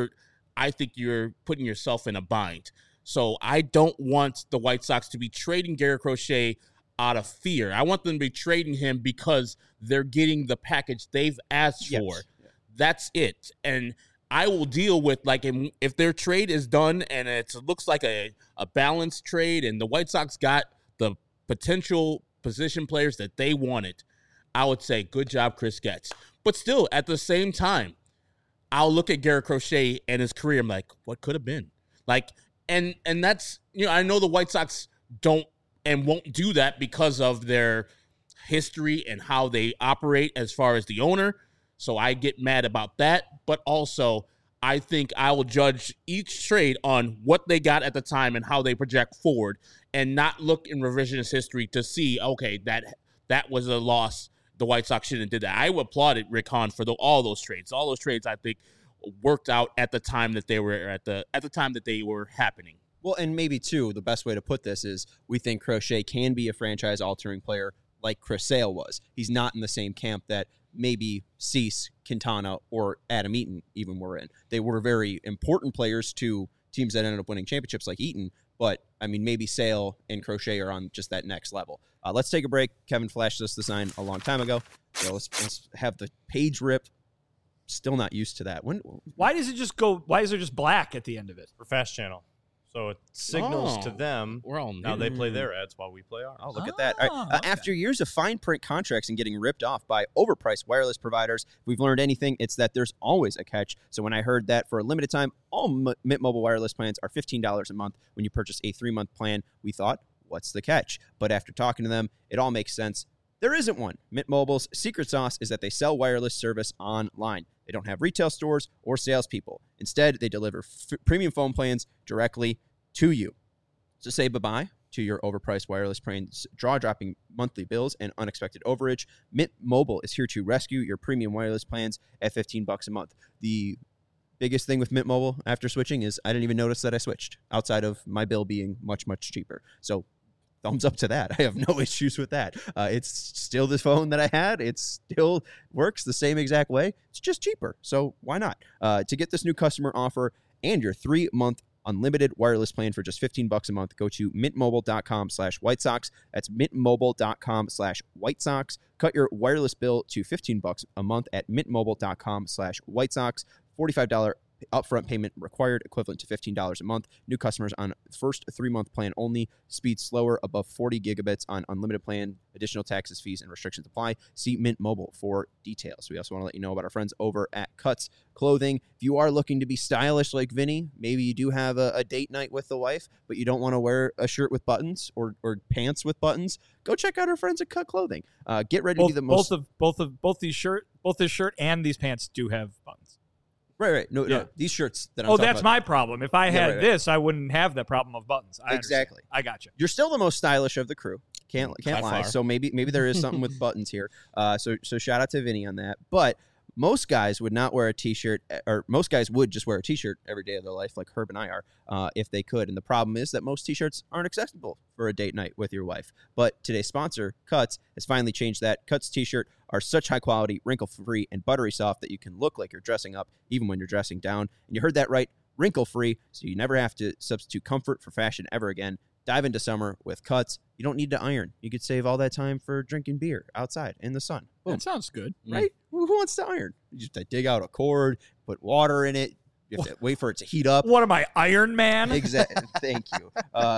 I think you're putting yourself in a bind. So I don't want the White Sox to be trading Garrett Crochet out of fear. I want them to be trading him because they're getting the package they've asked for. Yeah. That's it. And I will deal with, like, if their trade is done and it looks like a balanced trade and the White Sox got the potential position players that they wanted, I would say, good job, Chris Getz. But still, at the same time, I'll look at Garrett Crochet and his career. I'm like, what could have been? Like, and that's, I know the White Sox don't and won't do that because of their history and how they operate as far as the owner. So I get mad about that. But also, I think I will judge each trade on what they got at the time and how they project forward, and not look in revisionist history to see, okay, that was a loss. The White Sox shouldn't have did that. I applauded Rick Hahn for all those trades. All those trades, I think, worked out at the time that they were at the time that they were happening. Well, and maybe too, the best way to put this is we think Crochet can be a franchise-altering player like Chris Sale was. He's not in the same camp that maybe Cease, Quintana, or Adam Eaton even were in. They were very important players to teams that ended up winning championships like Eaton, but, I mean, maybe Sale and Crochet are on just that next level. Let's take a break. Kevin flashed us the sign a long time ago. So let's have the page rip. Still not used to that. Why does it just go? Why is there just black at the end of it? For Fast Channel. So it signals to them. We're all now they play their ads while we play ours. Oh, look at that. All right. Okay. After years of fine print contracts and getting ripped off by overpriced wireless providers, if we've learned anything, it's that there's always a catch. So when I heard that for a limited time, all Mint Mobile wireless plans are $15 a month when you purchase a 3-month plan, we thought, what's the catch? But after talking to them, it all makes sense. There isn't one. Mint Mobile's secret sauce is that they sell wireless service online. They don't have retail stores or salespeople. Instead, they deliver premium phone plans directly to you. So say bye-bye to your overpriced wireless plans, jaw-dropping monthly bills, and unexpected overage. Mint Mobile is here to rescue your premium wireless plans at $15 a month. The biggest thing with Mint Mobile after switching is I didn't even notice that I switched, outside of my bill being much, much cheaper. So thumbs up to that. I have no issues with that. It's still the phone that I had. It still works the same exact way. It's just cheaper. So why not? To get this new customer offer and your 3-month unlimited wireless plan for just $15 a month, go to mintmobile.com/White Sox. That's mintmobile.com/White Sox. Cut your wireless bill to $15 a month at mintmobile.com/White Sox. $45 upfront payment required, equivalent to $15 a month. New customers on first 3-month plan only. Speed slower, above 40 gigabits on unlimited plan. Additional taxes, fees, and restrictions apply. See Mint Mobile for details. We also want to let you know about our friends over at Cuts Clothing. If you are looking to be stylish like Vinny, maybe you do have a date night with the wife, but you don't want to wear a shirt with buttons or pants with buttons, go check out our friends at Cut Clothing. Get ready to be the most... Both this shirt and these pants do have buttons. Right. No, these shirts that I'm talking that's about. my problem. If I had this, I wouldn't have the problem of buttons. Exactly. I got you. You're still the most stylish of the crew. Can't lie. Far. So maybe there is something with buttons here. So shout out to Vinny on that. But most guys would not wear a T-shirt, or most guys would just wear a T-shirt every day of their life, like Herb and I are, if they could. And the problem is that most T-shirts aren't accessible for a date night with your wife. But today's sponsor, Cuts, has finally changed that. Cuts T-shirt are such high quality, wrinkle-free, and buttery soft that you can look like you're dressing up even when you're dressing down. And you heard that right, wrinkle-free, so you never have to substitute comfort for fashion ever again. Dive into summer with Cuts. You don't need to iron. You could save all that time for drinking beer outside in the sun. Boom. That sounds good. Right? Who wants to iron? You just dig out a cord, put water in it. You have to wait for it to heat up. What am I, Iron Man? Exactly. Thank you.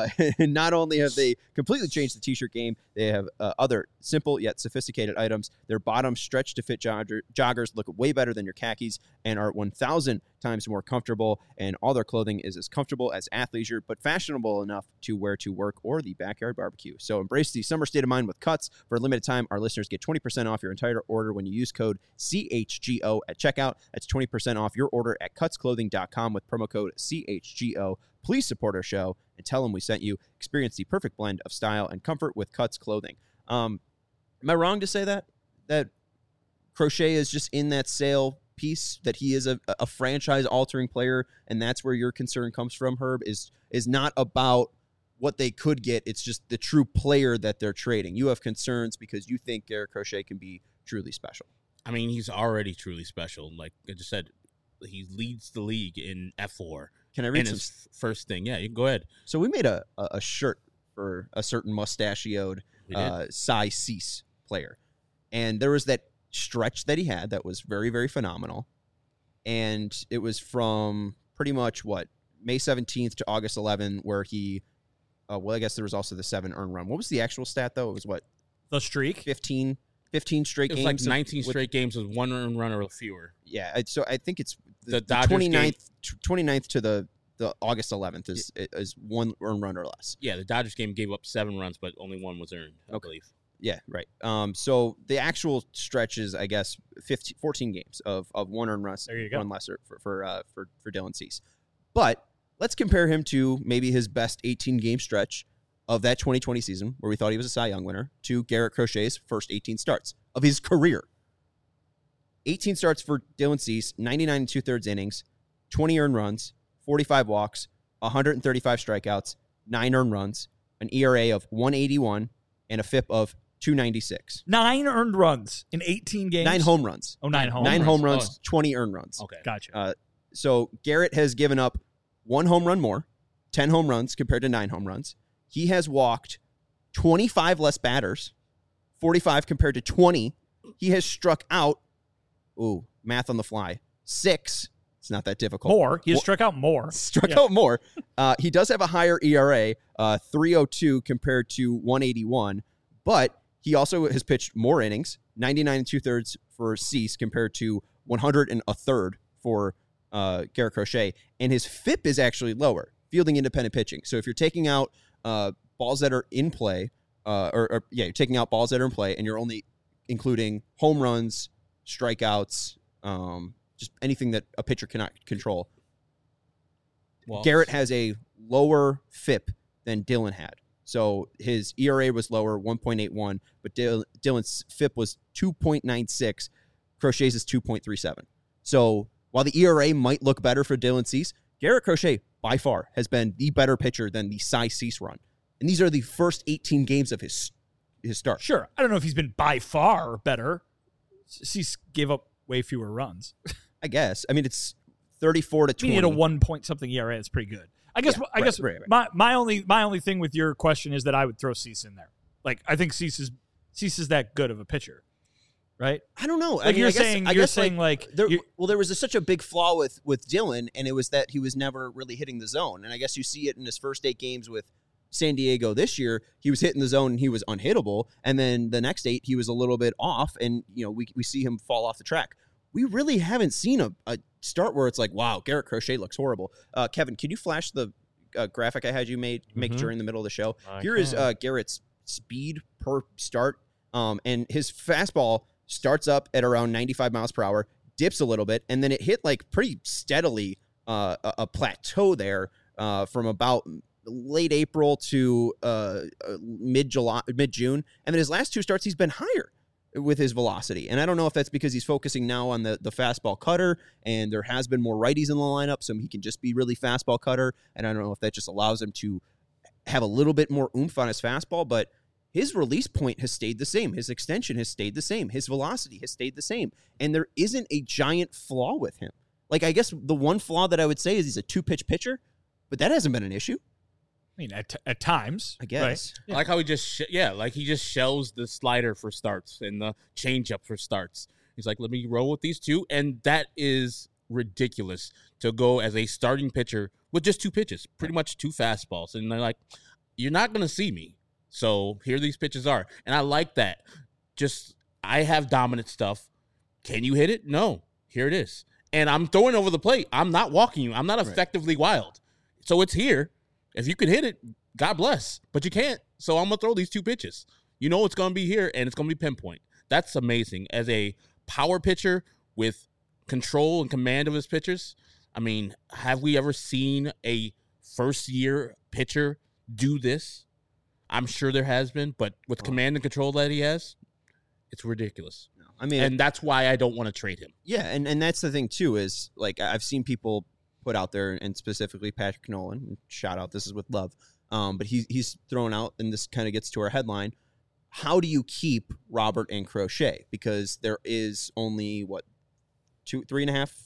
Not only have they completely changed the T-shirt game, they have other simple yet sophisticated items. Their bottoms stretch to fit joggers, look way better than your khakis, and are 1,000 times more comfortable. And all their clothing is as comfortable as athleisure, but fashionable enough to wear to work or the backyard barbecue. So embrace the summer state of mind with Cuts. For a limited time, our listeners get 20% off your entire order when you use code CHGO at checkout. That's 20% off your order at cutsclothing.com with promo code CHGO. Please support our show and tell them we sent you. Experience the perfect blend of style and comfort with Cuts Clothing. Am I wrong to say that Crochet is just in that Sale piece, that he is a franchise-altering player, and that's where your concern comes from, Herb, is not about what they could get. It's just the true player that they're trading. You have concerns because you think Garrett Crochet can be truly special. I mean, he's already truly special. Like I just said, he leads the league in F4. Can I read in some? his first thing? Yeah, you can go ahead. So we made a shirt for a certain mustachioed We did. Cy Cease player, and there was that stretch that he had that was very, very phenomenal, and it was from pretty much May 17th to August 11th, where he, I guess there was also the 7 earned run. What was the actual stat though? It was The streak? 15 straight It was games. like 19 straight games with 1 earned run or fewer. Yeah, so I think it's The Dodgers 29th to the August 11th is 1 earned run or less. Yeah, the Dodgers game gave up 7 runs, but only 1 was earned, I believe. Yeah, right. So the actual stretch is, I guess, 14 games of 1 earned run, There you go. 1 lesser for Dylan Cease. But let's compare him to maybe his best 18 game stretch of that 2020 season, where we thought he was a Cy Young winner, to Garrett Crochet's first 18 starts of his career. 18 starts for Dylan Cease, 99 2/3 innings, 20 earned runs, 45 walks, 135 strikeouts, 9 earned runs, an ERA of 181, and a FIP of 296. 9 earned runs in 18 games. 9 home runs. Oh, 9 home 9 runs. home runs, 20 earned runs. Okay. Gotcha. So Garrett has given up 1 home run more, 10 home runs compared to 9 home runs. He has walked 25 less batters, 45 compared to 20. He has struck out, math on the fly, 6. It's not that difficult. More. He has struck out more. Struck out more. He does have a higher ERA, 3.02 compared to 181, but he also has pitched more innings, 99 2/3 for Cease compared to 100 1/3 for Garrett Crochet, and his FIP is actually lower, fielding independent pitching. So if you're taking out balls that are in play, you're taking out balls that are in play, and you're only including home runs, strikeouts, just anything that a pitcher cannot control. Well, Garrett has a lower FIP than Dylan had. So his ERA was lower, 1.81, but Dylan's FIP was 2.96. Crochet's is 2.37. So while the ERA might look better for Dylan Cease, Garrett Crochet, by far, has been the better pitcher than the Cy Cease run. And these are the first 18 games of his start. Sure. I don't know if he's been by far better. Cease gave up way fewer runs. I guess. I mean, it's 34 to 20. He had a 1 point something ERA. It's pretty good. I guess. Right. My only thing with your question is that I would throw Cease in there. Like, I think Cease is that good of a pitcher, right? I don't know. Like, you're saying there was such a big flaw with Dylan, and it was that he was never really hitting the zone. And I guess you see it in his first 8 games with San Diego this year. He was hitting the zone and he was unhittable, and then the next 8 he was a little bit off, and we see him fall off the track. We really haven't seen a start where it's like, wow, Garrett Crochet looks horrible. Kevin, can you flash the graphic I had you make during the middle of the show? Here is Garrett's speed per start, and his fastball starts up at around 95 miles per hour, dips a little bit, and then it hit like pretty steadily a plateau there from about late April to mid-June, and then his last 2 starts he's been higher with his velocity. And I don't know if that's because he's focusing now on the fastball cutter, and there has been more righties in the lineup, so he can just be really fastball cutter, and I don't know if that just allows him to have a little bit more oomph on his fastball, but his release point has stayed the same. His extension has stayed the same. His velocity has stayed the same. And there isn't a giant flaw with him. Like, I guess the one flaw that I would say is he's a 2-pitch pitcher, but that hasn't been an issue. I mean, at times, I guess. Right? I like how he just shells the slider for starts and the changeup for starts. He's like, let me roll with these 2, and that is ridiculous to go as a starting pitcher with just 2 pitches, pretty much 2 fastballs, and they're like, you're not going to see me, so here these pitches are, and I like that. Just, I have dominant stuff. Can you hit it? No. Here it is, and I'm throwing over the plate. I'm not walking you. I'm not effectively wild, so it's here. If you can hit it, God bless. But you can't, so I'm going to throw these 2 pitches. You know it's going to be here, and it's going to be pinpoint. That's amazing. As a power pitcher with control and command of his pitchers, I mean, have we ever seen a first-year pitcher do this? I'm sure there has been, but with command and control that he has, it's ridiculous. I mean, and that's why I don't want to trade him. Yeah, and that's the thing, too, is, like, I've seen people put out there, and specifically Patrick Nolan, shout out, this is with love, but he's thrown out, and this kind of gets to our headline, how do you keep Robert and Crochet? Because there is only, 3.5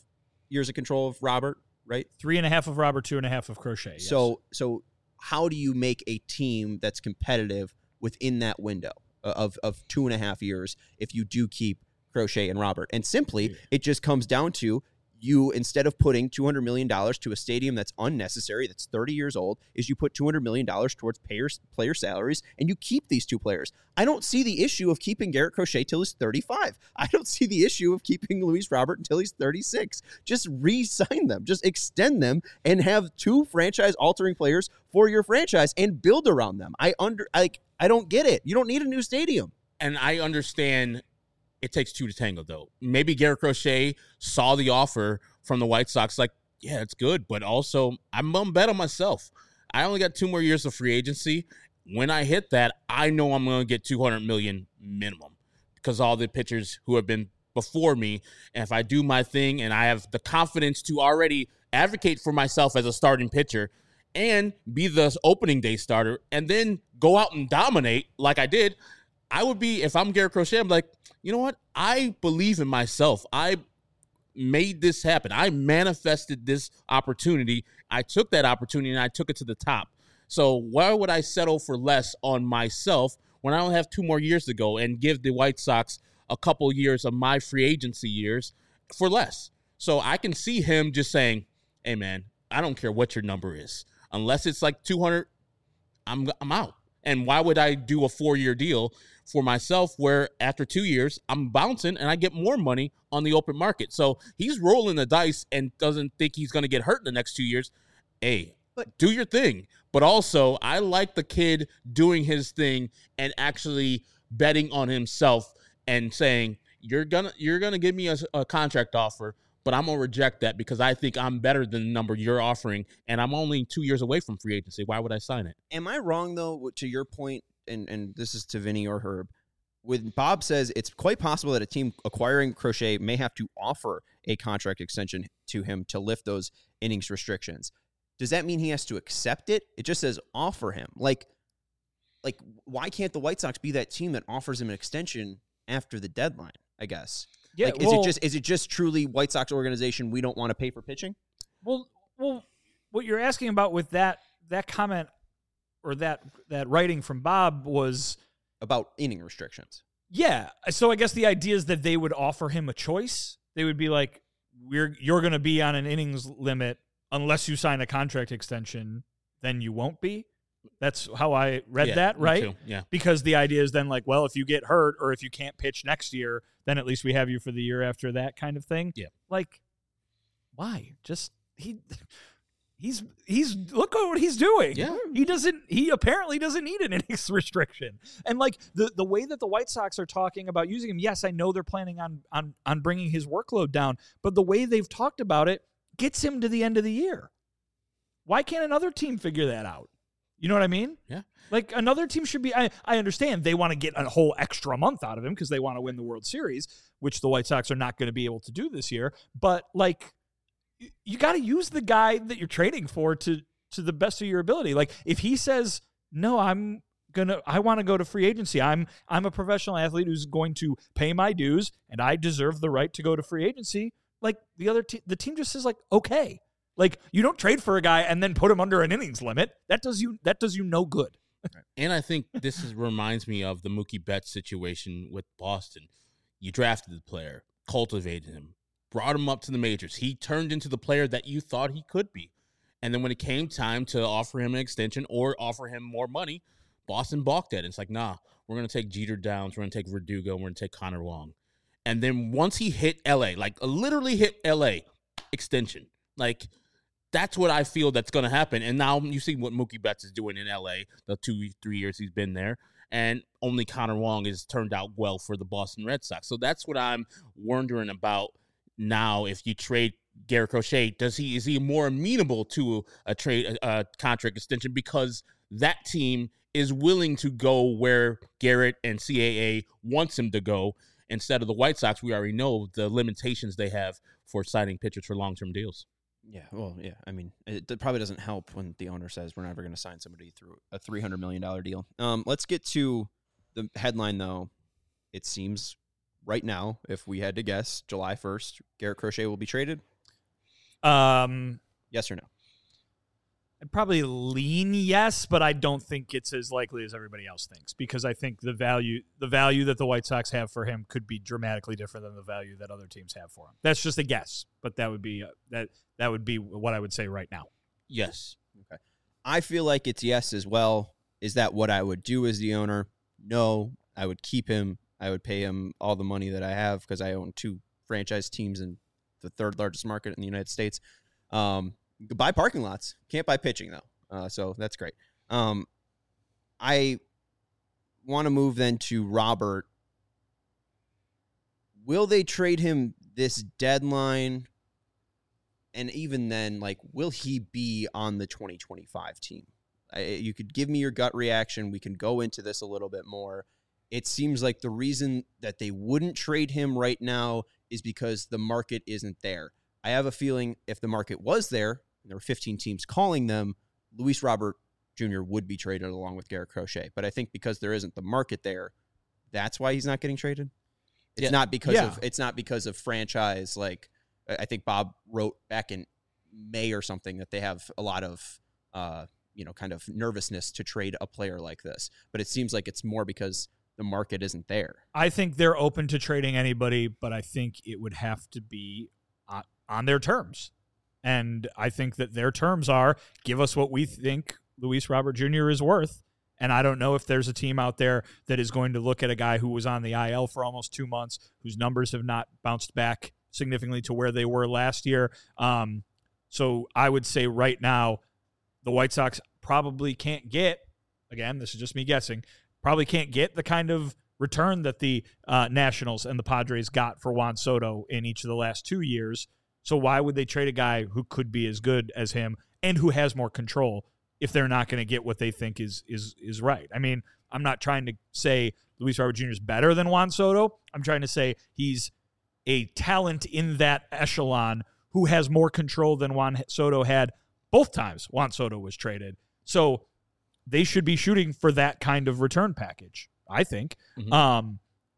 years of control of Robert, right? 3.5 of Robert, 2.5 of Crochet. Yes. So how do you make a team that's competitive within that window of 2.5 years if you do keep Crochet and Robert? And simply, it just comes down to you, instead of putting $200 million to a stadium that's unnecessary, that's 30 years old, is you put $200 million towards player salaries, and you keep these two players. I don't see the issue of keeping Garrett Crochet till he's 35. I don't see the issue of keeping Luis Robert until he's 36. Just re-sign them. Just extend them and have two franchise-altering players for your franchise and build around them. I don't get it. You don't need a new stadium. And I understand it takes two to tango, though. Maybe Garrett Crochet saw the offer from the White Sox, like, yeah, it's good, but also I'm going to bet on myself. I only got 2 more years of free agency. When I hit that, I know I'm going to get $200 million minimum because all the pitchers who have been before me, and if I do my thing and I have the confidence to already advocate for myself as a starting pitcher and be the opening day starter and then go out and dominate like I did, I would be, if I'm Garrett Crochet, I'm like, you know what? I believe in myself. I made this happen. I manifested this opportunity. I took that opportunity and I took it to the top. So why would I settle for less on myself when I only have 2 more years to go and give the White Sox a couple years of my free agency years for less? So I can see him just saying, hey, man, I don't care what your number is. Unless it's like 200, I'm out. And why would I do a 4-year deal for myself where after 2 years I'm bouncing and I get more money on the open market? So he's rolling the dice and doesn't think he's going to get hurt in the next 2 years. Hey, do your thing. But also, I like the kid doing his thing and actually betting on himself and saying, you're gonna give me a contract offer, but I'm going to reject that because I think I'm better than the number you're offering, and I'm only 2 years away from free agency. Why would I sign it? Am I wrong, though, to your point, and this is to Vinny or Herb, when Bob says it's quite possible that a team acquiring Crochet may have to offer a contract extension to him to lift those innings restrictions? Does that mean he has to accept it? It just says offer him. Like, why can't the White Sox be that team that offers him an extension after the deadline, I guess? Yeah, like, is it just truly White Sox organization, we don't want to pay for pitching? Well, what you're asking about with that comment or that writing from Bob was about inning restrictions. Yeah. So I guess the idea is that they would offer him a choice. They would be like, you're going to be on an innings limit unless you sign a contract extension, then you won't be. That's how I read that, right? Me too. Yeah. Because the idea is then like, well, if you get hurt or if you can't pitch next year, then at least we have you for the year after that kind of thing. Yeah. Like, why? Just he's look at what he's doing. Yeah. He apparently doesn't need an innings restriction. And like the way that the White Sox are talking about using him, yes, I know they're planning on bringing his workload down, but the way they've talked about it gets him to the end of the year. Why can't another team figure that out? You know what I mean? Yeah. Like another team should be, I understand they want to get a whole extra month out of him because they want to win the World Series, which the White Sox are not going to be able to do this year. But like, you got to use the guy that you're trading for to the best of your ability. Like if he says, no, I want to go to free agency. I'm a professional athlete who's going to pay my dues and I deserve the right to go to free agency. Like the team just says like, okay. Like you don't trade for a guy and then put him under an innings limit. That does you no good. And I think this reminds me of the Mookie Betts situation with Boston. You drafted the player, cultivated him, brought him up to the majors. He turned into the player that you thought he could be. And then when it came time to offer him an extension or offer him more money, Boston balked at it. It's like, nah, we're going to take Jeter Downs, we're going to take Verdugo, we're going to take Connor Wong. And then once he hit L.A., like literally hit L.A., extension. Like, that's what I feel that's going to happen. And now you see what Mookie Betts is doing in L.A., the 2-3 years he's been there. And only Connor Wong has turned out well for the Boston Red Sox. So that's what I'm wondering about now. If you trade Garrett Crochet, is he more amenable to a contract extension because that team is willing to go where Garrett and CAA wants him to go instead of the White Sox? We already know the limitations they have for signing pitchers for long-term deals. Yeah, well, yeah. I mean, it probably doesn't help when the owner says we're never going to sign somebody through a $300 million deal. Let's get to the headline, though. It seems right now, if we had to guess, July 1st, Garrett Crochet will be traded. Yes or no? I'd probably lean yes, but I don't think it's as likely as everybody else thinks, because I think the value that the White Sox have for him could be dramatically different than the value that other teams have for him. That's just a guess, but that would be that would be what I would say right now. Yes. Okay. I feel like it's yes as well. Is that what I would do as the owner? No, I would keep him. I would pay him all the money that I have because I own 2 franchise teams in the 3rd largest market in the United States. Buy parking lots. Can't buy pitching, though. So that's great. I want to move then to Robert. Will they trade him this deadline? And even then, like, will he be on the 2025 team? You could give me your gut reaction. We can go into this a little bit more. It seems like the reason that they wouldn't trade him right now is because the market isn't there. I have a feeling if the market was there, and there were 15 teams calling them, Luis Robert Jr. would be traded along with Garrett Crochet. But I think because there isn't the market there, that's why he's not getting traded. It's not because of franchise. Like, I think Bob wrote back in May or something that they have a lot of kind of nervousness to trade a player like this. But it seems like it's more because the market isn't there. I think they're open to trading anybody, but I think it would have to be on their terms. And I think that their terms are, give us what we think Luis Robert Jr. is worth. And I don't know if there's a team out there that is going to look at a guy who was on the IL for almost 2 months, whose numbers have not bounced back significantly to where they were last year. So I would say right now, the White Sox probably can't get, again, this is just me guessing, probably can't get the kind of return that the Nationals and the Padres got for Juan Soto in each of the last 2 years. So why would they trade a guy who could be as good as him and who has more control if they're not going to get what they think is right? I mean, I'm not trying to say Luis Robert Jr. is better than Juan Soto. I'm trying to say he's a talent in that echelon who has more control than Juan Soto had both times Juan Soto was traded. So they should be shooting for that kind of return package, I think. Mm-hmm.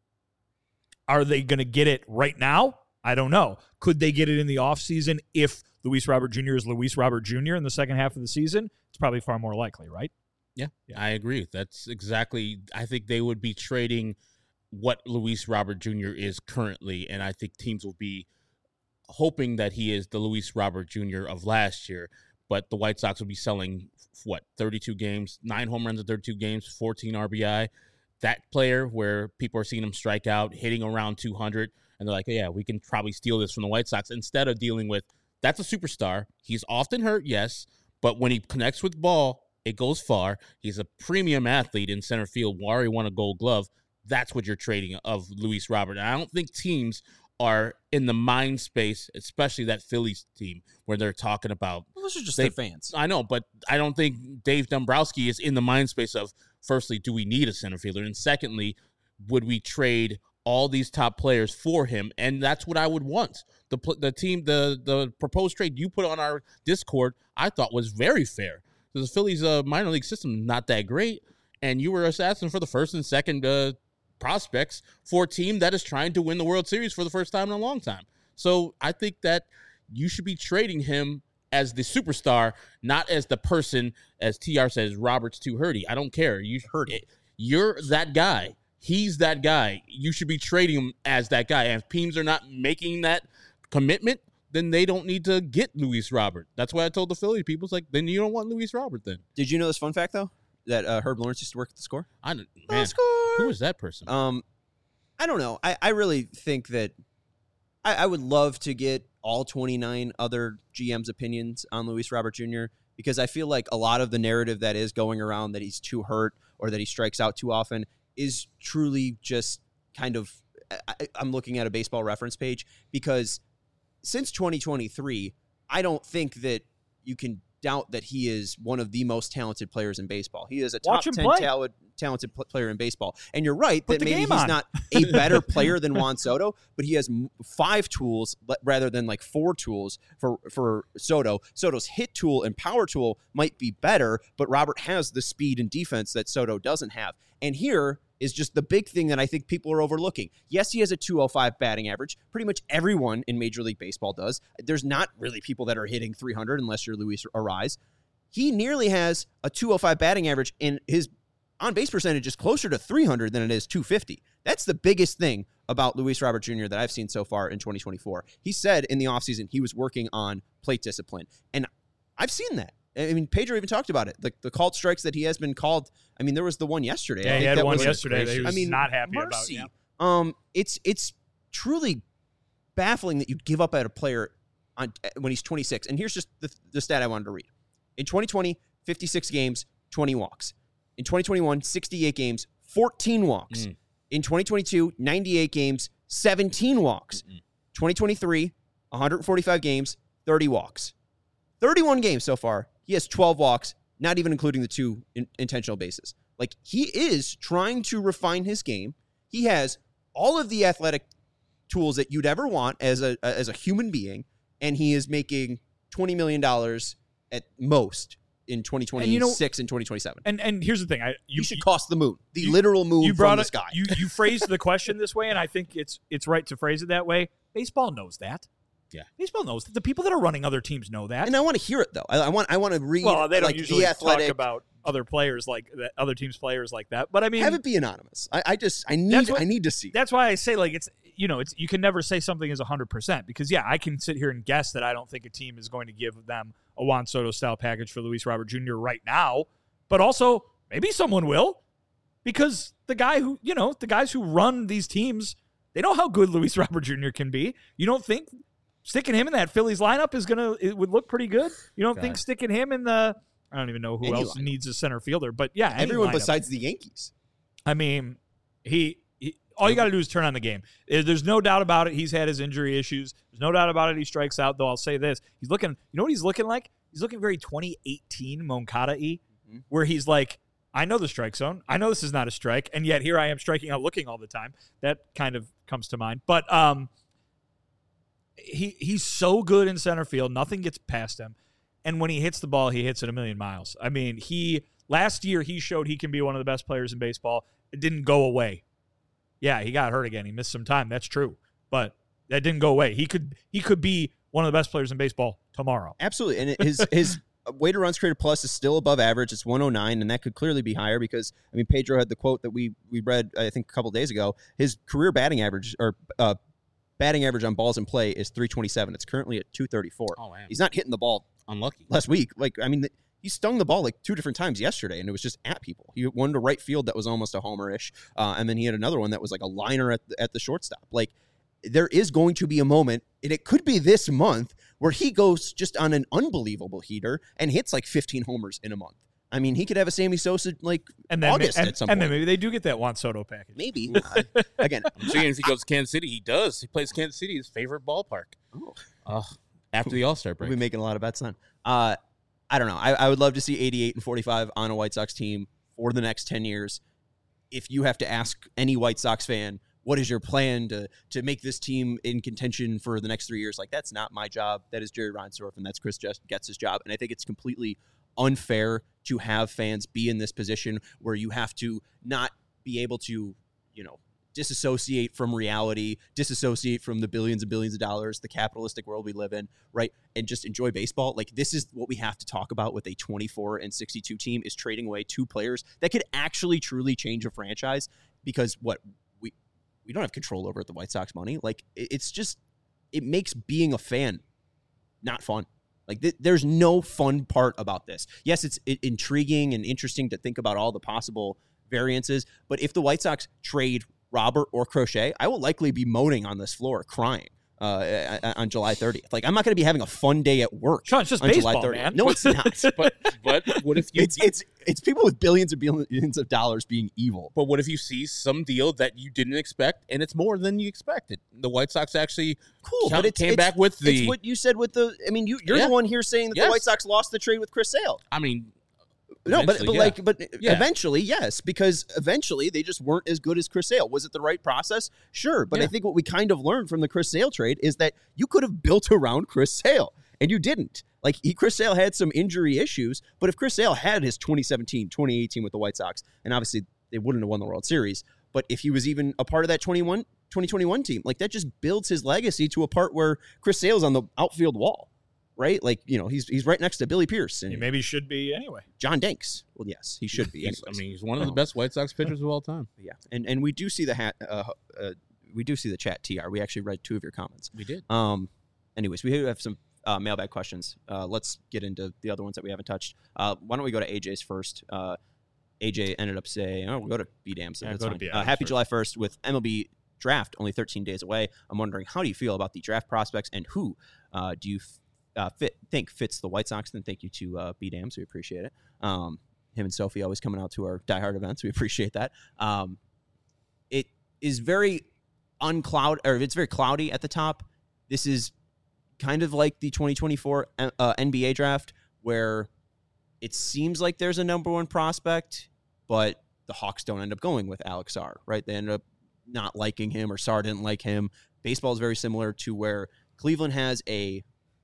Are they going to get it right now? I don't know. Could they get it in the offseason if Luis Robert Jr. is Luis Robert Jr. in the second half of the season? It's probably far more likely, right? Yeah, I agree. That's exactly, I think they would be trading what Luis Robert Jr. is currently, and I think teams will be hoping that he is the Luis Robert Jr. of last year, but the White Sox will be selling, 32 games, 9 home runs in 32 games, 14 RBI. That player where people are seeing him strike out, hitting around 200, and they're like, yeah, we can probably steal this from the White Sox, instead of dealing with, that's a superstar. He's often hurt, yes, but when he connects with ball, it goes far. He's a premium athlete in center field. Wari won a Gold Glove. That's what you're trading of Luis Robert. And I don't think teams are in the mind space, especially that Phillies team, where they're talking about. Well, those are just their fans. I know, but I don't think Dave Dombrowski is in the mind space of, firstly, do we need a center fielder? And secondly, would we trade all these top players for him? And that's what I would want. The proposed trade you put on our Discord, I thought was very fair. The Phillies minor league system not that great, and you were asking for the first and second prospects for a team that is trying to win the World Series for the first time in a long time. So I think that you should be trading him as the superstar, not as the person, as TR says, Robert's too hurty. I don't care. You're that guy. He's that guy. You should be trading him as that guy. And if teams are not making that commitment, then they don't need to get Luis Robert. That's why I told the Philly people, it's like, then you don't want Luis Robert then. Did you know this fun fact, though? That Herb Lawrence used to work at The Score? Who is that person? I don't know. I really think that I would love to get all 29 other GM's opinions on Luis Robert Jr., because I feel like a lot of the narrative that is going around that he's too hurt or that he strikes out too often is truly just kind of, I'm looking at a Baseball Reference page, because since 2023, I don't think that you can doubt that he is one of the most talented players in baseball. He is a top 10 talented player in baseball. And you're right that maybe he's not a better player than Juan Soto, but he has 5 tools rather than like 4 tools for Soto. Soto's hit tool and power tool might be better, but Robert has the speed and defense that Soto doesn't have. And here, is just the big thing that I think people are overlooking. Yes, he has a 205 batting average. Pretty much everyone in Major League Baseball does. There's not really people that are hitting 300 unless you're Luis Arraez. He nearly has a 205 batting average, and his on-base percentage is closer to 300 than it is 250. That's the biggest thing about Luis Robert Jr. that I've seen so far in 2024. He said in the offseason he was working on plate discipline, and I've seen that. I mean, Pedro even talked about it. The called strikes that he has been called. I mean, there was the one yesterday. Yeah, he had one yesterday that he was not happy mercy. about. Yeah. It's truly baffling that you'd give up at a player when he's 26. And here's just the stat I wanted to read. In 2020, 56 games, 20 walks. In 2021, 68 games, 14 walks. In 2022, 98 games, 17 walks. 2023, 145 games, 30 walks. 31 games so far. He has 12 walks, not even including the 2 intentional bases. Like, he is trying to refine his game. He has all of the athletic tools that you'd ever want as a human being, and he is making $20 million at most in 2026 and 2027. And here's the thing. You should cost the moon. The literal moon from the sky. You phrased the question this way, and I think it's right to phrase it that way. Baseball knows that. Yeah, baseball knows that. The people that are running other teams know that, and I want to hear it though. I want to read. Well, they don't like usually the athletic talk about other players like that, other teams' players like that. But I mean, have it be anonymous. I need to see. That's why I say like it's you can never say something is 100% because I can sit here and guess that I don't think a team is going to give them a Juan Soto style package for Luis Robert Jr. right now, but also maybe someone will because the guys who run these teams, they know how good Luis Robert Jr. can be. You don't think sticking him in that Phillies lineup it would look pretty good? You don't think sticking him in I don't even know who else needs a center fielder, but everyone lineup. Besides the Yankees. I mean, he all you got to do is turn on the game. There's no doubt about it. He's had his injury issues. There's no doubt about it. He strikes out, though. I'll say this: he's looking. You know what he's looking like? He's looking very 2018 Moncada-y, where he's like, I know the strike zone. I know this is not a strike, and yet here I am striking out, looking all the time. That kind of comes to mind, but He's so good in center field. Nothing gets past him. And when he hits the ball, he hits it a million miles. I mean, last year he showed he can be one of the best players in baseball. It didn't go away. Yeah, he got hurt again. He missed some time. That's true. But that didn't go away. He could be one of the best players in baseball tomorrow. Absolutely. And his weighted runs created plus is still above average. It's 109, and that could clearly be higher because, I mean, Pedro had the quote that we read, I think, a couple days ago. His career batting average on balls in play is 327. It's currently at 234. Oh, man. He's not hitting the ball unlucky last week. Like, I mean, he stung the ball like 2 different times yesterday, and it was just at people. He won to right field that was almost a homer-ish, and then he had another one that was like a liner at the shortstop. Like, there is going to be a moment, and it could be this month, where he goes just on an unbelievable heater and hits like 15 homers in a month. I mean, he could have a Sammy Sosa August at some point. And then maybe they do get that Juan Soto package. Maybe. Again, I'm seeing if he goes to Kansas City. He does. He plays Kansas City, his favorite ballpark. After the All-Star break. We'll be making a lot of bets then. I don't know. I would love to see 88 and 45 on a White Sox team for the next 10 years. If you have to ask any White Sox fan, what is your plan to make this team in contention for the next 3 years? Like, that's not my job. That is Jerry Reinsdorf, and that's Chris Getz's job. And I think it's completely unfair to have fans be in this position where you have to not be able to, disassociate from reality, disassociate from the billions and billions of dollars, the capitalistic world we live in, right? And just enjoy baseball. Like, this is what we have to talk about with a 24 and 62 team, is trading away 2 players that could actually truly change a franchise, because we don't have control over the White Sox money. Like, it's just, it makes being a fan not fun. Like, there's no fun part about this. Yes, it's intriguing and interesting to think about all the possible variances, but if the White Sox trade Robert or Crochet, I will likely be moaning on this floor, crying on July 30th. Like, I'm not going to be having a fun day at work. Sean, it's just on baseball, July 30th. man. No, it's not. but what if you? It's people with billions and billions of dollars being evil. But what if you see some deal that you didn't expect and it's more than you expected? The White Sox actually came back with the. It's what you said with the. I mean, you're the one here saying that the White Sox lost the trade with Chris Sale. I mean. No, but eventually, yes, because eventually they just weren't as good as Chris Sale. Was it the right process? Sure, but I think what we kind of learned from the Chris Sale trade is that you could have built around Chris Sale, and you didn't. Like, Chris Sale had some injury issues, but if Chris Sale had his 2017, 2018 with the White Sox, and obviously they wouldn't have won the World Series. But if he was even a part of that 2021 team, like that just builds his legacy to a part where Chris Sale's on the outfield wall, right? Like, he's right next to Billy Pierce. And he maybe should be anyway. John Danks. Well, yes, he should be. He's one of the best White Sox pitchers of all time. Yeah, and we do see we do see the chat, TR. We actually read 2 of your comments. We did. Anyways, we have some mailbag questions. Let's get into the other ones that we haven't touched. Why don't we go to AJ's first? AJ ended up saying, we'll go to B-Dam. So that's fine. Happy July 1st with MLB draft only 13 days away. I'm wondering, how do you feel about the draft prospects, and who do you think fits the White Sox? Then thank you to B-Dam, so we appreciate it. Him and Sophie always coming out to our diehard events. We appreciate that. It is very it's very cloudy at the top. This is kind of like the 2024 NBA draft, where it seems like there's a number 1 prospect, but the Hawks don't end up going with Alex Sarr, right? They end up not liking him, or Sarr didn't like him. Baseball is very similar to where Cleveland has a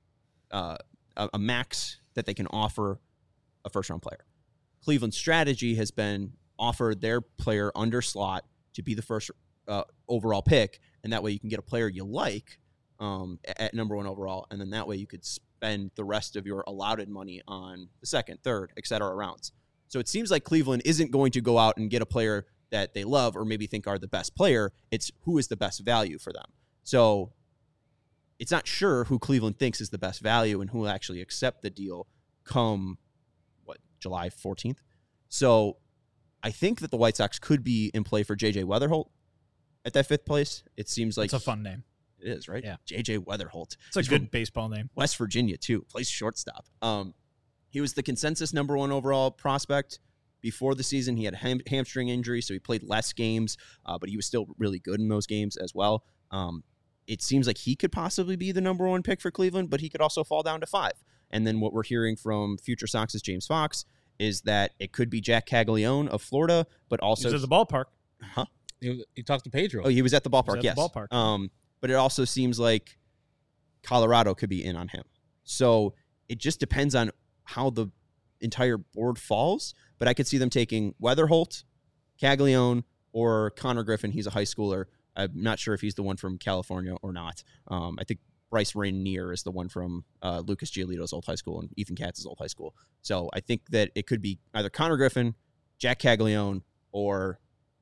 max that they can offer a first-round player. Cleveland's strategy has been offer their player under slot to be the first overall pick, and that way you can get a player you like at number 1 overall, and then that way you could spend the rest of your allotted money on the second, third, et cetera rounds. So it seems like Cleveland isn't going to go out and get a player that they love or maybe think are the best player. It's who is the best value for them. So it's not sure who Cleveland thinks is the best value and who will actually accept the deal come, July 14th. So I think that the White Sox could be in play for J.J. Weatherholt at that 5th place. It seems like it's a fun name. It is, right? Yeah. J.J. Weatherholt. It's a good baseball name. West Virginia, too. Plays shortstop. He was the consensus number 1 overall prospect before the season. He had a hamstring injury, so he played less games, but he was still really good in those games as well. It seems like he could possibly be the number 1 pick for Cleveland, but he could also fall down to 5. And then what we're hearing from future Sox's James Fox is that it could be Jack Caglione of Florida, but also... He's at the ballpark. Huh? He talked to Pedro. Oh, he was at the ballpark, yes. The ballpark. But it also seems like Colorado could be in on him. So it just depends on how the entire board falls. But I could see them taking Weatherholt, Caglione, or Connor Griffin. He's a high schooler. I'm not sure if he's the one from California or not. I think Bryce Rainier is the one from Lucas Giolito's old high school and Ethan Katz's old high school. So I think that it could be either Connor Griffin, Jack Caglione, or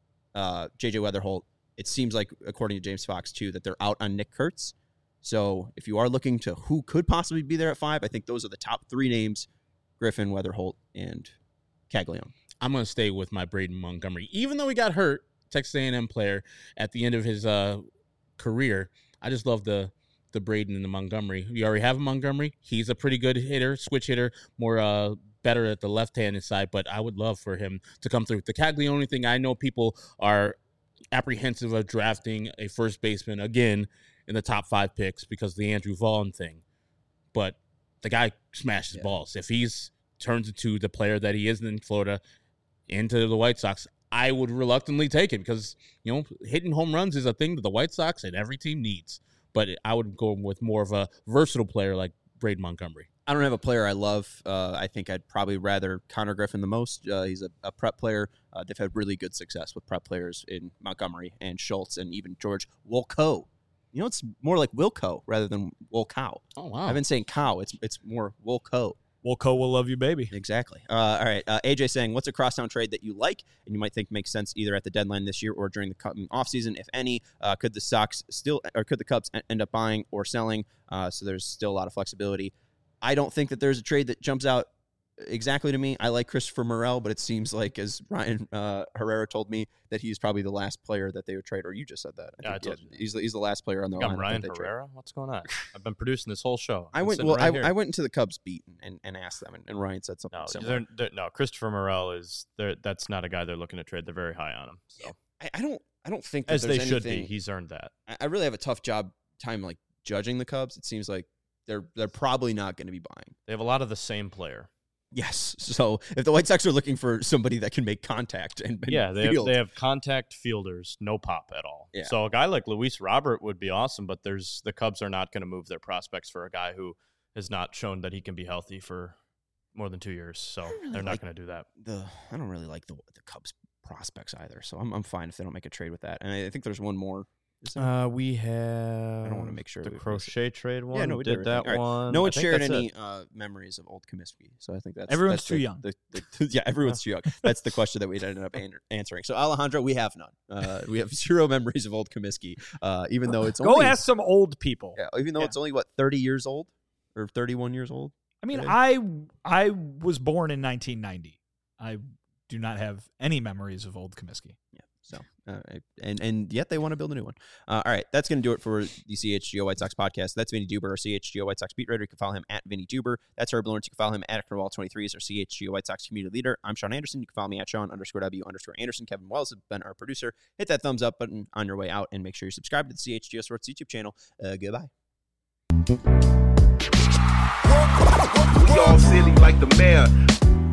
J.J. Weatherholt. It seems like, according to James Fox, too, that they're out on Nick Kurtz. So if you are looking to who could possibly be there at 5, I think those are the top 3 names: Griffin, Weatherholt, and Caglione. I'm going to stay with my Braden Montgomery. Even though he got hurt, Texas A&M player, at the end of his career, I just love the Braden and the Montgomery. We already have a Montgomery. He's a pretty good hitter, switch hitter, more better at the left-handed side, but I would love for him to come through. The Caglione thing, I know people are apprehensive of drafting a first baseman again in the top 5 picks because of the Andrew Vaughn thing, but the guy smashes balls. If he's turns into the player that he is in Florida into the White Sox, I would reluctantly take it because, hitting home runs is a thing that the White Sox and every team needs. But I would go with more of a versatile player like Braden Montgomery. I don't have a player I love. I think I'd probably rather Connor Griffin the most. He's a prep player. They've had really good success with prep players in Montgomery and Schultz and even George Wolkow. It's more like Wilco rather than Wolkow. Oh, wow. I've been saying cow. It's more Wolkow. Wolco will love you, baby. Exactly. All right. AJ saying, what's a crosstown trade that you like and you might think makes sense either at the deadline this year or during the coming offseason, if any? Could the Cubs end up buying or selling? So there's still a lot of flexibility. I don't think that there's a trade that jumps out exactly to me. I like Christopher Morel, but it seems like, as Ryan Herrera told me, that he's probably the last player that they would trade. Or you just said that. I told you. He's the last player on the line. Ryan Herrera? What's going on? I've been producing this whole show. I went into the Cubs beat and asked them, and Ryan said something similar. No, Christopher Morel that's not a guy they're looking to trade. They're very high on him. So I don't think that as there's they should anything, be. He's earned that. I really have a tough time like judging the Cubs. It seems like they're probably not going to be buying. They have a lot of the same player. Yes. So if the White Sox are looking for somebody that can make contact and they have contact fielders, no pop at all. Yeah. So a guy like Luis Robert would be awesome, but the Cubs are not going to move their prospects for a guy who has not shown that he can be healthy for more than 2 years. So they're not going to do that. I don't really like the Cubs prospects either. So I'm fine if they don't make a trade with that. And I think there's one more. We have. I don't want to make sure the Crochet trade one. Yeah, no, we did that right. one. No one shared any memories of old Comiskey, so I think everyone's that's too young. Yeah, everyone's too young. That's the question that we ended up answering. So Alejandro, we have none. We have 0 memories of old Comiskey, even though it's go ask some old people. Yeah, even though it's only 30 years old or 31 years old. I mean, I was born in 1990. I do not have any memories of old Comiskey. Yeah. So, and yet they want to build a new one. All right, that's going to do it for the CHGO White Sox podcast. That's Vinny Duber, our CHGO White Sox beat writer. You can follow him at Vinny Duber. That's Herb Lawrence. You can follow him at Acronwall23 as our CHGO White Sox community leader. I'm Sean Anderson. You can follow me at Sean_W_Anderson. Kevin Wells has been our producer. Hit that thumbs up button on your way out and make sure you subscribe to the CHGO Sports YouTube channel. Goodbye. We all silly like the mayor.